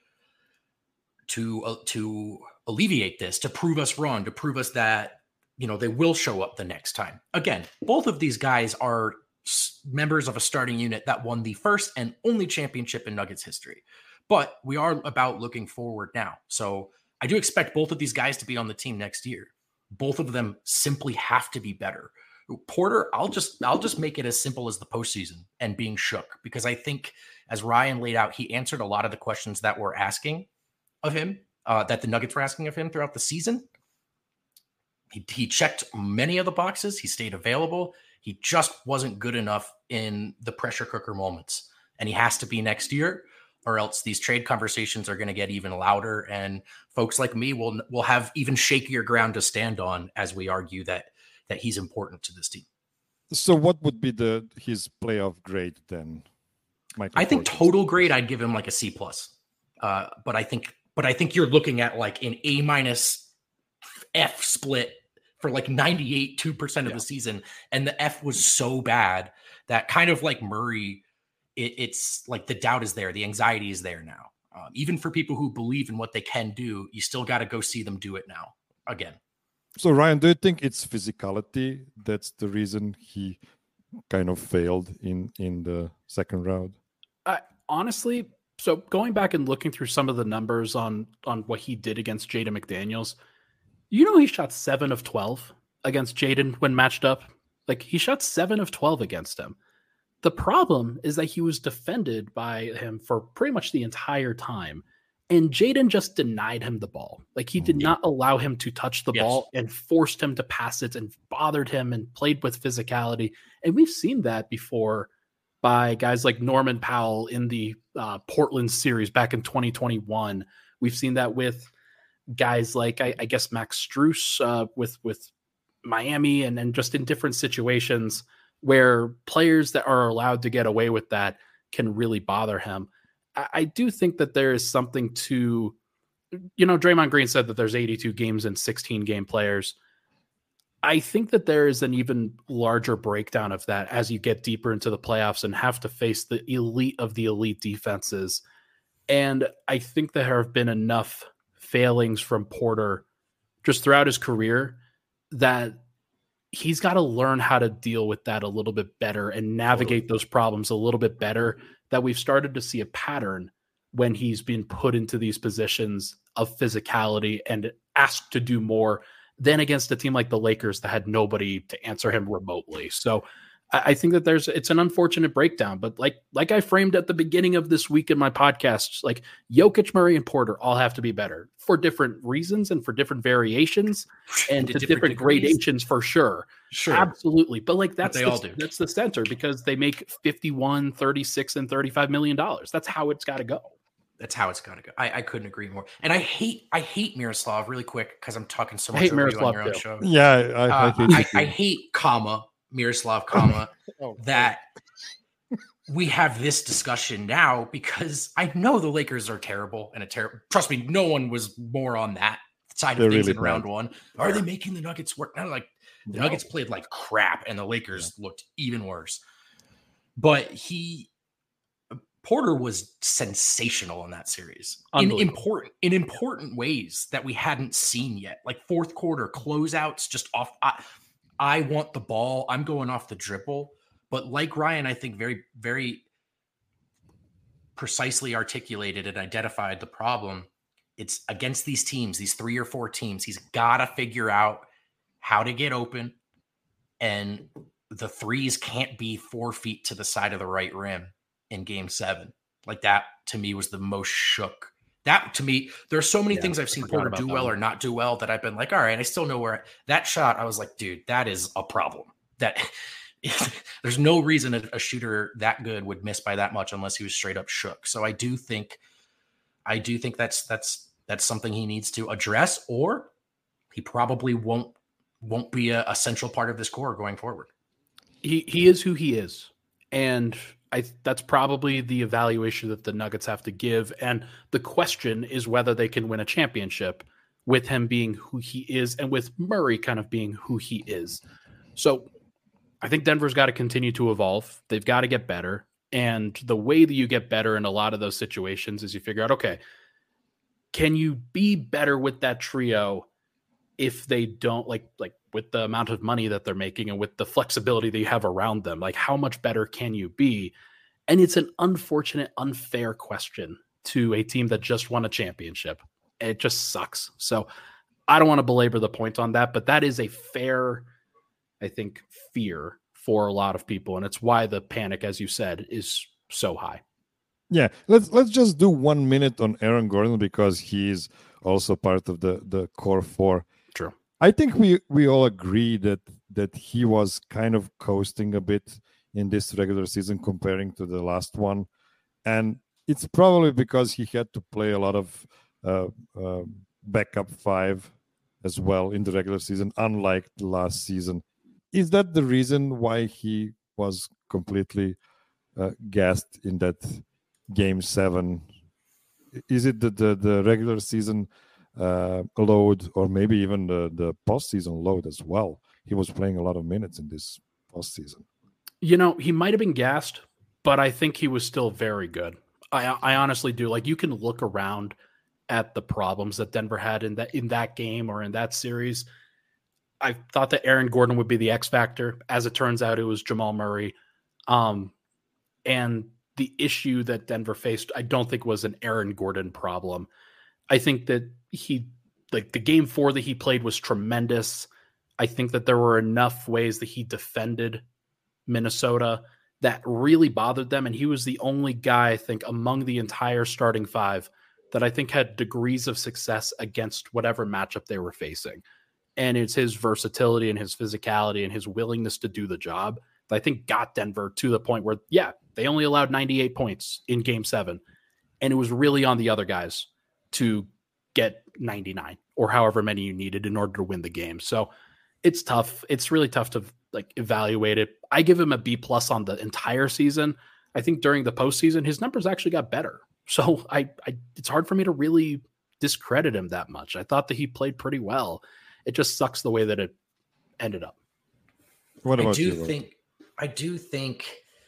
to uh, to alleviate this, to prove us wrong, to prove us that, you know, they will show up the next time. Again, both of these guys are members of a starting unit that won the first and only championship in Nuggets history. But we are about looking forward now. So I do expect both of these guys to be on the team next year. Both of them simply have to be better. Porter, I'll just I'll just make it as simple as the postseason and being shook, because I think, as Ryan laid out, he answered a lot of the questions that we're asking of him, uh, that the Nuggets were asking of him throughout the season. He, he checked many of the boxes. He stayed available. He just wasn't good enough in the pressure cooker moments, and he has to be next year, or else these trade conversations are going to get even louder, and folks like me will will have even shakier ground to stand on as we argue that that he's important to this team. So what would be the his playoff grade then, Michael? I think Porter? total grade, I'd give him like a C plus. Uh, but I think but I think you're looking at like an A minus F split for like ninety-eight, two percent of yeah. the season. And the F was so bad that, kind of like Murray, it, it's like the doubt is there. The anxiety is there now. Um, even for people who believe in what they can do, you still got to go see them do it now again. So, Ryan, do you think it's physicality that's the reason he kind of failed in, in the second round? Uh, honestly, so going back and looking through some of the numbers on, on what he did against Jaden McDaniels, you know, he shot seven of twelve against Jaden when matched up. Like, he shot seven of twelve against him. The problem is that he was defended by him for pretty much the entire time. And Jaden just denied him the ball. Like, he did not allow him to touch the yes. ball, and forced him to pass it and bothered him and played with physicality. And we've seen that before by guys like Norman Powell in the uh, Portland series back in twenty twenty-one. We've seen that with guys like, I, I guess, Max Strus uh, with, with Miami, and, and just in different situations where players that are allowed to get away with that can really bother him. I do think that there is something to, you know, Draymond Green said that there's eighty-two games and sixteen game players. I think that there is an even larger breakdown of that as you get deeper into the playoffs and have to face the elite of the elite defenses. And I think there have been enough failings from Porter just throughout his career that he's got to learn how to deal with that a little bit better and navigate those problems a little bit better, that we've started to see a pattern when he's been put into these positions of physicality and asked to do more than against a team like the Lakers that had nobody to answer him remotely. So I think that there's it's an unfortunate breakdown, but like like I framed at the beginning of this week in my podcast, like Jokic, Murray, and Porter all have to be better for different reasons and for different variations and to, to different, different gradations for sure. Sure. Absolutely. But like that's but they the, all do. That's the center because they make fifty-one, thirty-six, and thirty-five million dollars. That's how it's got to go. That's how it's got to go. I, I couldn't agree more. And I hate I hate Miroslav really quick because I'm talking so much I hate over Miroslav you on your too. own show. Yeah, I, uh, I, hate, I, I hate comma Miroslav comma oh, that we have this discussion now because I know the Lakers are terrible and a terrible. Trust me, no one was more on that side of They're things really in round bad. one. Are they making the Nuggets work? No, like the No. Nuggets played like crap and the Lakers yeah. looked even worse. But he Porter was sensational in that series in important in important ways that we hadn't seen yet. Like fourth quarter closeouts, just off. I, I want the ball. I'm going off the dribble. But like Ryan, I think very, very precisely articulated and identified the problem. It's against these teams, these three or four teams. He's got to figure out how to get open. And the threes can't be four feet to the side of the right rim in game seven. Like that, to me, was the most shook. That, to me, there are so many yeah, things I've seen Porter do well one. or not do well that I've been like, all right, I still know where that shot. I was like, dude, that is a problem. That there's no reason a, a shooter that good would miss by that much unless he was straight up shook. So I do think, I do think that's that's that's something he needs to address, or he probably won't won't be a, a central part of this core going forward. He he is who he is, and I that's probably the evaluation that the Nuggets have to give. And the question is whether they can win a championship with him being who he is and with Murray kind of being who he is. So I think Denver's got to continue to evolve. They've got to get better. And the way that you get better in a lot of those situations is you figure out, okay, can you be better with that trio if they don't like, like with the amount of money that they're making and with the flexibility that you have around them, like how much better can you be? And it's an unfortunate, unfair question to a team that just won a championship. It just sucks. So I don't want to belabor the point on that, but that is a fair, I think, fear for a lot of people. And it's why the panic, as you said, is so high. Yeah, let's let's just do one minute on Aaron Gordon because he's also part of the, the core four. True. I think we, we all agree that that he was kind of coasting a bit in this regular season comparing to the last one. And it's probably because he had to play a lot of uh, uh, backup five as well in the regular season, unlike the last season. Is that the reason why he was completely uh, gassed in that game seven? Is it the, the, the regular season uh, load or maybe even the, the postseason load as well? He was playing a lot of minutes in this postseason. You know, he might have been gassed, but I think he was still very good. I, I honestly do. Like, you can look around at the problems that Denver had in that in that game or in that series. I thought that Aaron Gordon would be the X factor. As it turns out, it was Jamal Murray. Um, and the issue that Denver faced, I don't think was an Aaron Gordon problem. I think that he, like the game four that he played was tremendous. I think that there were enough ways that he defended Minnesota that really bothered them. And he was the only guy, I think, among the entire starting five that I think had degrees of success against whatever matchup they were facing. And it's his versatility and his physicality and his willingness to do the job that I think got Denver to the point where, yeah, they only allowed ninety-eight points in game seven. And it was really on the other guys to get ninety-nine or however many you needed in order to win the game. So it's tough. It's really tough to like evaluate it. I give him a B plus on the entire season. I think during the postseason, his numbers actually got better. So I, I it's hard for me to really discredit him that much. I thought that he played pretty well. It just sucks the way that it ended up. What about I do you, think I do think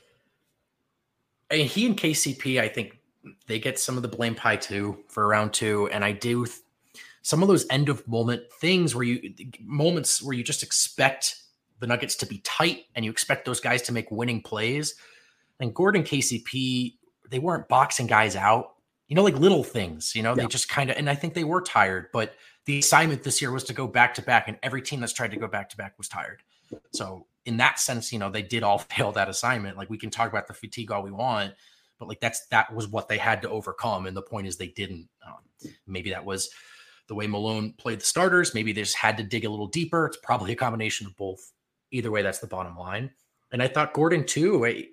and he and K C P, I think they get some of the blame pie too for round two. And I do th- some of those end of moment things where you moments where you just expect the Nuggets to be tight and you expect those guys to make winning plays. And Gordon, K C P, they weren't boxing guys out. you know, like little things, you know, Yeah. they just kind of, and I think they were tired, but the assignment this year was to go back to back, and every team that's tried to go back to back was tired. So in that sense, you know, they did all fail that assignment. Like we can talk about the fatigue all we want, but like that's, that was what they had to overcome. And the point is they didn't. Um, maybe that was the way Malone played the starters. Maybe they just had to dig a little deeper. It's probably a combination of both. Either way, that's the bottom line. And I thought Gordon too, I,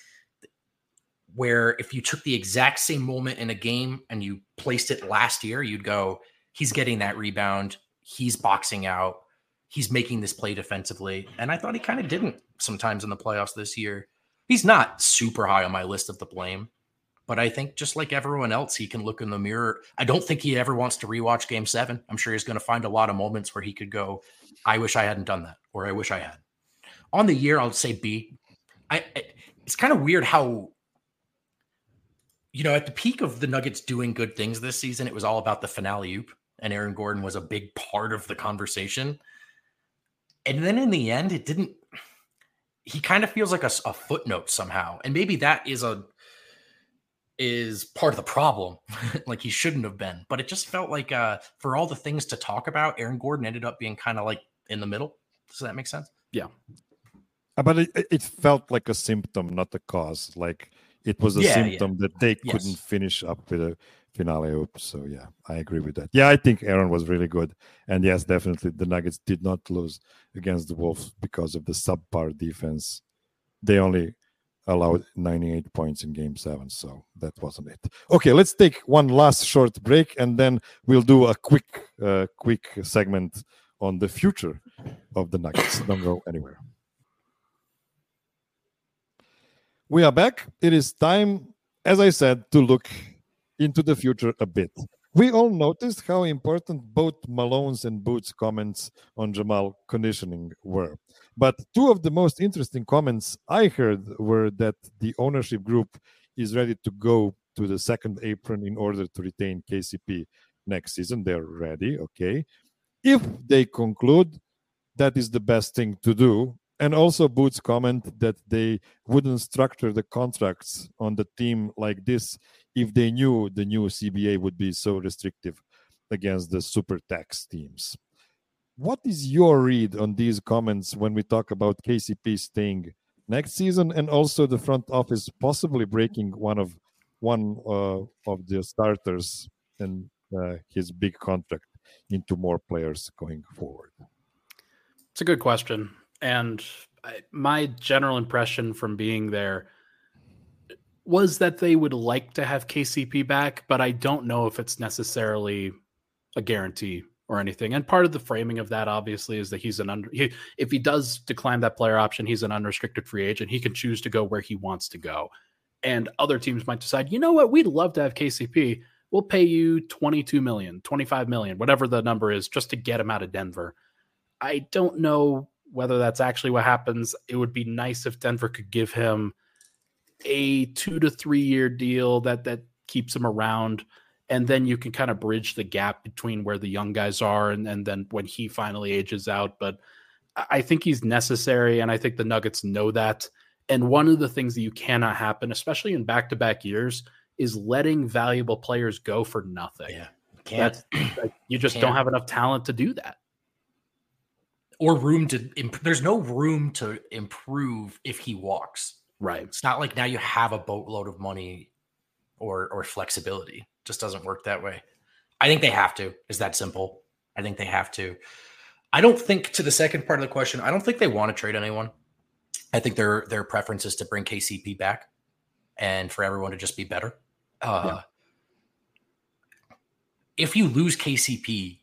where if you took the exact same moment in a game and you placed it last year, you'd go, he's getting that rebound. He's boxing out. He's making this play defensively. And I thought he kind of didn't sometimes in the playoffs this year. He's not super high on my list of the blame, but I think just like everyone else, he can look in the mirror. I don't think he ever wants to rewatch game seven. I'm sure he's going to find a lot of moments where he could go, I wish I hadn't done that, or I wish I had. On the year, I'll say B. I, I it's kind of weird how, you know, at the peak of the Nuggets doing good things this season, it was all about the finale oop, and Aaron Gordon was a big part of the conversation. And then in the end, it didn't, he kind of feels like a, a footnote somehow. And maybe that is a, is part of the problem. Like he shouldn't have been, but it just felt like uh, for all the things to talk about, Aaron Gordon ended up being kind of like in the middle. Does that make sense? Yeah. But it, it felt like a symptom, not a cause. Like it was a Yeah, symptom yeah. that they Yes. couldn't finish up with a finale oop. So yeah, I agree with that. Yeah, I think Aaron was really good. And yes, definitely the Nuggets did not lose against the Wolves because of the subpar defense. They only allowed ninety-eight points in game seven. So that wasn't it. Okay, let's take one last short break and then we'll do a quick, uh, quick segment on the future of the Nuggets. Don't go anywhere. We are back. It is time, as I said, to look into the future a bit. We all noticed how important both Malone's and Boots' comments on Jamal conditioning were. But two of the most interesting comments I heard were that the ownership group is ready to go to the second apron in order to retain K C P next season. They're ready, okay. If they conclude that is the best thing to do, and also Boots' comment that they wouldn't structure the contracts on the team like this if they knew the new C B A would be so restrictive against the super tax teams. What is your read on these comments when we talk about K C P staying next season and also the front office possibly breaking one of one uh, of the starters and uh, his big contract into more players going forward? It's a good question. And I, my general impression from being there was that they would like to have K C P back, but I don't know if it's necessarily a guarantee or anything. And part of the framing of that, obviously, is that he's an under. He, if he does decline that player option, he's an unrestricted free agent. He can choose to go where he wants to go. And other teams might decide, you know what, we'd love to have K C P. We'll pay you twenty-two million, twenty-five million, whatever the number is, just to get him out of Denver. I don't know whether that's actually what happens. It would be nice if Denver could give him a two to three year deal that that keeps him around. And then you can kind of bridge the gap between where the young guys are and, and then when he finally ages out. But I think he's necessary, and I think the Nuggets know that. And one of the things that you cannot happen, especially in back-to-back years, is letting valuable players go for nothing. Yeah, you can't. That's, you just Can't. don't have enough talent to do that. Or room to imp- there's no room to improve if he walks. Right. It's not like now you have a boatload of money or or flexibility. It just doesn't work that way. I think they have to. Is that simple? I think they have to. I don't think, to the second part of the question, I don't think they want to trade anyone. I think their their preference is to bring K C P back and for everyone to just be better. Uh, Yeah. If you lose K C P,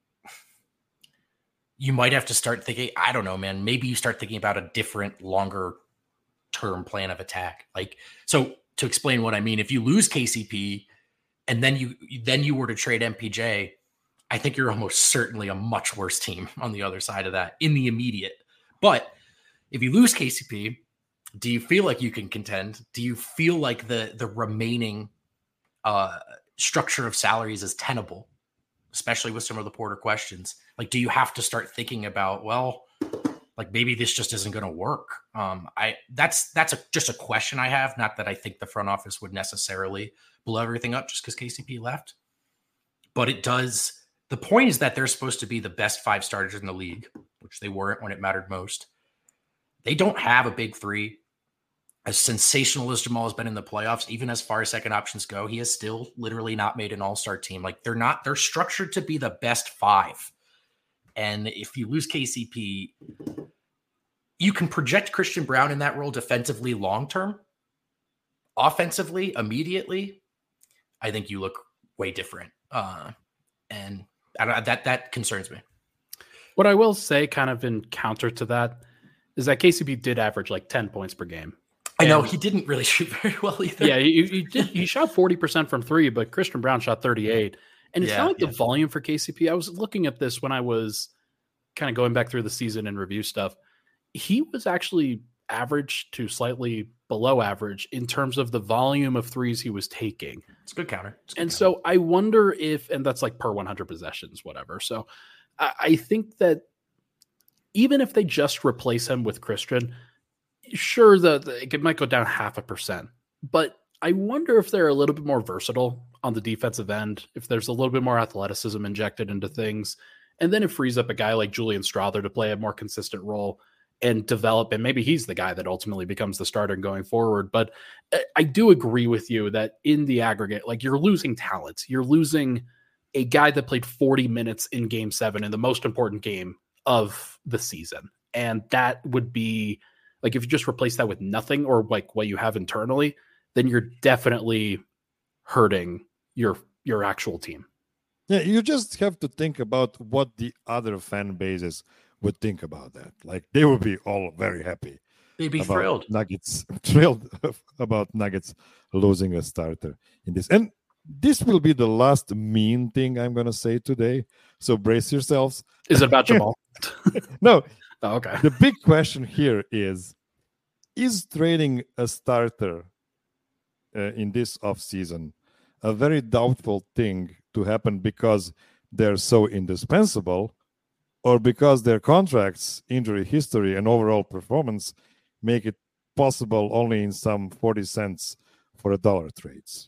you might have to start thinking, I don't know, man, maybe you start thinking about a different, longer term plan of attack. Like, so to explain what I mean, if you lose K C P and then you then you were to trade M P J, I think you're almost certainly a much worse team on the other side of that in the immediate. But if you lose K C P, do you feel like you can contend? Do you feel like the the remaining uh, structure of salaries is tenable, especially with some of the Porter questions? Like, do you have to start thinking about, well, Like maybe this just isn't going to work. Um, I that's that's a, just a question I have. Not that I think the front office would necessarily blow everything up just because K C P left, but it does. The point is that they're supposed to be the best five starters in the league, which they weren't when it mattered most. They don't have a big three. As sensational as Jamal has been in the playoffs, even as far as second options go, he has still literally not made an all-star team. Like they're not. They're structured to be the best five. And if you lose K C P, you can project Christian Braun in that role defensively long-term. Offensively, immediately, I think you look way different. Uh, and I don't, that that concerns me. What I will say kind of in counter to that is that K C P did average like ten points per game. I know, he didn't really shoot very well either. Yeah, he, he, did, he shot forty percent from three, but Christian Braun shot thirty-eight. And it's Yeah, not like yeah. the volume for K C P. I was looking at this when I was kind of going back through the season and review stuff. He was actually average to slightly below average in terms of the volume of threes he was taking. It's a good counter. It's a good And counter. so I wonder if, and that's like per one hundred possessions, whatever. So I, I think that even if they just replace him with Christian, sure, the, the it might go down half a percent, but I wonder if they're a little bit more versatile on the defensive end, if there's a little bit more athleticism injected into things, and then it frees up a guy like Julian Strother to play a more consistent role and develop, and maybe he's the guy that ultimately becomes the starter going forward. But I do agree with you that in the aggregate, like you're losing talent. You're losing a guy that played forty minutes in game seven in the most important game of the season. And that would be like, if you just replace that with nothing or like what you have internally, then you're definitely hurting your, your actual team. Yeah, you just have to think about what the other fan bases would think about that. Like they would be all very happy. They'd be about thrilled. Nuggets thrilled about Nuggets losing a starter in this. And this will be the last mean thing I'm going to say today. So brace yourselves. Is it about Jamal? No, Oh, okay. the big question here is, is trading a starter uh, in this offseason a very doubtful thing to happen because they're so indispensable, or because their contracts, injury history, and overall performance make it possible only in some forty cents for a dollar trades?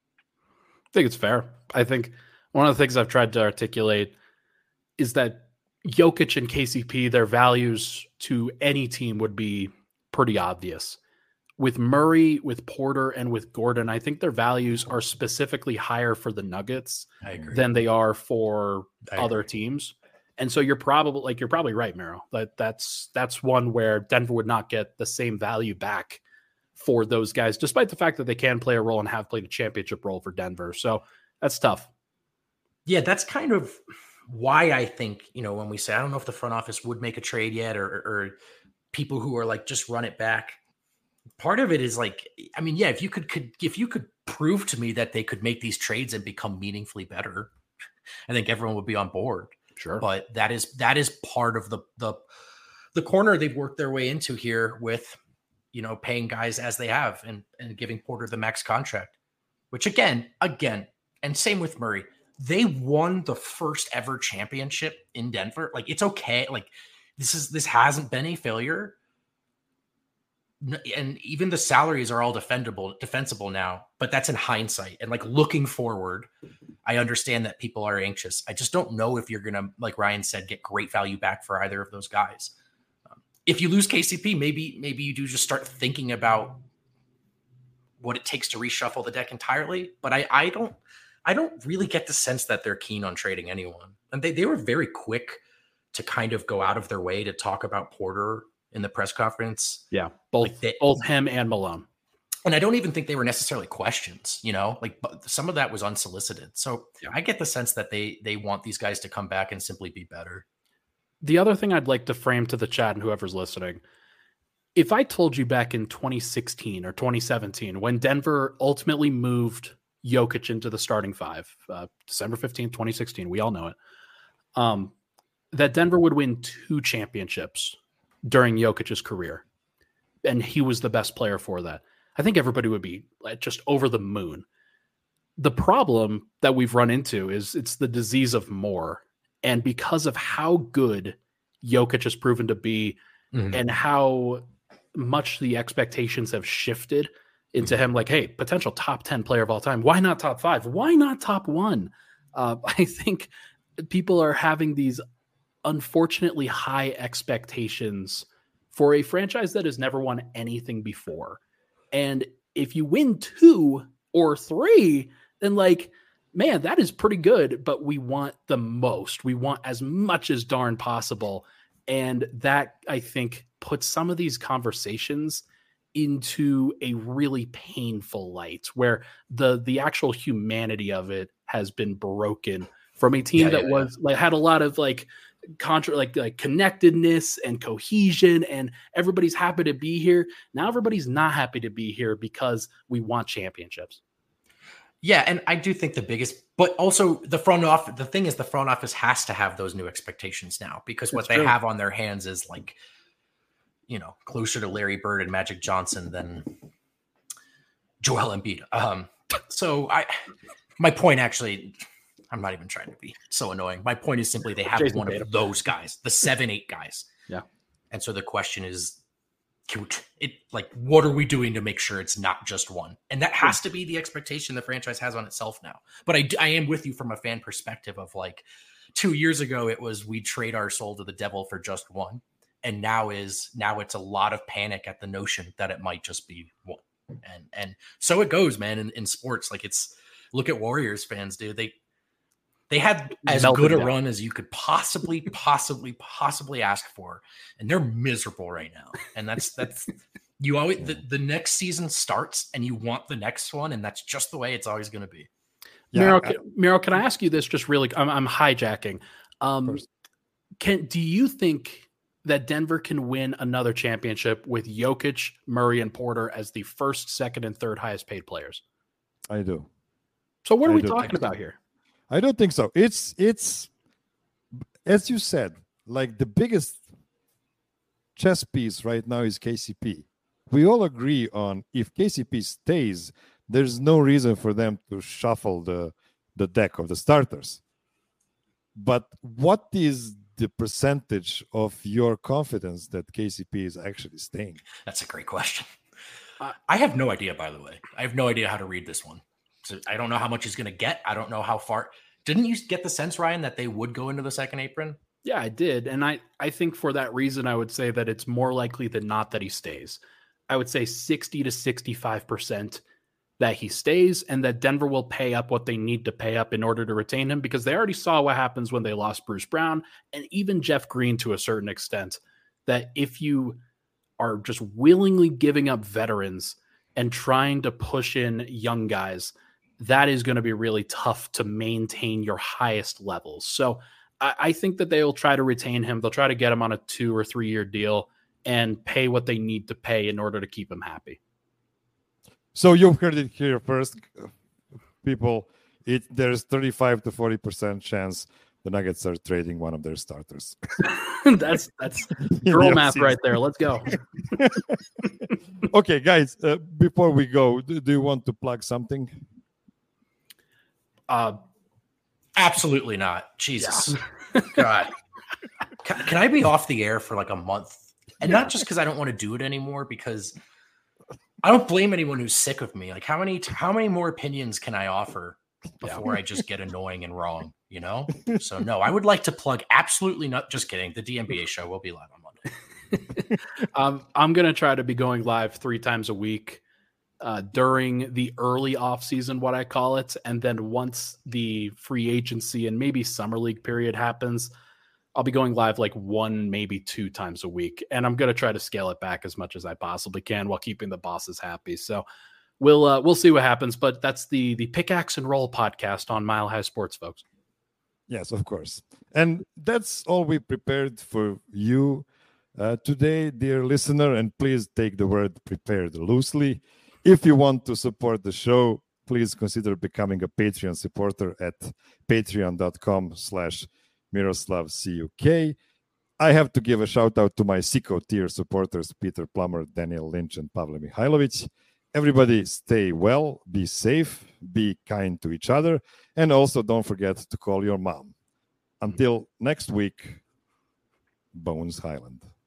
I think it's fair. I think one of the things I've tried to articulate is that Jokic and K C P, their values to any team would be pretty obvious. With Murray, with Porter, and with Gordon, I think their values are specifically higher for the Nuggets I agree. than they are for I other agree. teams. And so you're probably like you're probably right, Mero. That that's that's one where Denver would not get the same value back for those guys, despite the fact that they can play a role and have played a championship role for Denver. So that's tough. Yeah, that's kind of why I think, you know, when we say, I don't know if the front office would make a trade yet, or, or people who are like, just run it back. Part of it is like, I mean, yeah, if you could, could, if you could prove to me that they could make these trades and become meaningfully better, I think everyone would be on board. Sure. But that is, that is part of the, the, the corner they've worked their way into here with, you know, paying guys as they have and, and giving Porter the max contract, which again, again, and same with Murray, they won the first ever championship in Denver. Like, it's okay. Like, this is, this hasn't been a failure. And even the salaries are all defendable, defensible now, but that's in hindsight. And like looking forward, I understand that people are anxious. I just don't know if you're going to, like Ryan said, get great value back for either of those guys. Um, if you lose K C P, maybe, maybe you do just start thinking about what it takes to reshuffle the deck entirely. But I, I don't, I don't really get the sense that they're keen on trading anyone. And they, they were very quick to kind of go out of their way to talk about Porter in the press conference. Yeah. Both, Like they- both him and Malone. And I don't even think they were necessarily questions, you know, like but some of that was unsolicited. So Yeah. I get the sense that they, they want these guys to come back and simply be better. The other thing I'd like to frame to the chat and whoever's listening, if I told you back in twenty sixteen or twenty seventeen, when Denver ultimately moved Jokic into the starting five, uh, December fifteenth, twenty sixteen, we all know it, um, that Denver would win two championships during Jokic's career, and he was the best player for that, I think everybody would be like, just over the moon. The problem that we've run into is it's the disease of more. And because of how good Jokic has proven to be, mm-hmm. and how much the expectations have shifted into him. Like, hey, potential top ten player of all time. Why not top five? Why not top one? Uh, I think people are having these unfortunately high expectations for a franchise that has never won anything before. And if you win two or three, then like, man, that is pretty good, but we want the most. We want as much as darn possible. And that, I think, puts some of these conversations into a really painful light where the the actual humanity of it has been broken from a team yeah, that yeah, was yeah. like had a lot of like contra like like connectedness and cohesion, and everybody's happy to be here. Now everybody's not happy to be here because we want championships. Yeah, and I do think the biggest, but also the front office, the thing is the front office has to have those new expectations now, because what That's they true. have on their hands is like, you know, closer to Larry Bird and Magic Johnson than Joel Embiid. Um, so I, my point actually, I'm not even trying to be so annoying. My point is simply they have Jason one Tatum. of those guys, the seven, eight guys. Yeah. And so the question is, it like, what are we doing to make sure it's not just one? And that has to be the expectation the franchise has on itself now. But I, I am with you from a fan perspective of like two years ago, it was we trade our soul to the devil for just one. And now is now it's a lot of panic at the notion that it might just be one. And and so it goes, man, in, in sports. Like it's look at Warriors fans, dude. They they had as Melted good a down. run as you could possibly, possibly, possibly ask for. And they're miserable right now. And that's that's you always the, the next season starts and you want the next one, and that's just the way it's always gonna be. Yeah, Miro, I, Miro, can I ask you this just really I'm I'm hijacking. Um can do you think that Denver can win another championship with Jokic, Murray, and Porter as the first, second, and third highest paid players? I do. So what are I we do. talking about here? I don't think so. It's, it's as you said, like the biggest chess piece right now is K C P. We all agree on if K C P stays, there's no reason for them to shuffle the, the deck of the starters. But what is the percentage of your confidence that K C P is actually staying? That's a great question. Uh, I have no idea, by the way. I have no idea how to read this one. So I don't know how much he's going to get. I don't know how far. Didn't you get the sense, Ryan, that they would go into the second apron? Yeah, I did. And I, I think for that reason, I would say that it's more likely than not that he stays. I would say sixty to sixty-five percent that he stays, and that Denver will pay up what they need to pay up in order to retain him, because they already saw what happens when they lost Bruce Brown and even Jeff Green to a certain extent, that if you are just willingly giving up veterans and trying to push in young guys, that is going to be really tough to maintain your highest levels. So I, I think that they will try to retain him. They'll try to get him on a two or three year deal and pay what they need to pay in order to keep him happy. So you've heard it here first, people. It there's thirty-five to forty percent chance the Nuggets are trading one of their starters. that's that's girl math right there. Let's go. Okay, guys. Uh, before we go, do, do you want to plug something? Uh, absolutely not. Jesus, yeah. God. Can, can I be off the air for like a month? And not just because I don't want to do it anymore, because I don't blame anyone who's sick of me. Like how many, how many more opinions can I offer before yeah. I just get annoying and wrong, you know? So no, I would like to plug absolutely not. Just kidding. The D N B A show will be live on Monday. um, I'm going to try to be going live three times a week uh, during the early off season, what I call it. And then once the free agency and maybe summer league period happens, I'll be going live like one, maybe two times a week. And I'm going to try to scale it back as much as I possibly can while keeping the bosses happy. So we'll, uh, we'll see what happens, but that's the, the Pickaxe and Roll podcast on Mile High Sports, folks. Yes, of course. And that's all we prepared for you uh, today, dear listener. And please take the word prepared loosely. If you want to support the show, please consider becoming a Patreon supporter at patreon.com slash Miroslav C U K. I have to give a shout out to my Sicko tier supporters, Peter Plummer, Daniel Lynch, and Pavle Mihailovic. Everybody stay well, be safe, be kind to each other, and also don't forget to call your mom. Until next week, Bones Highland.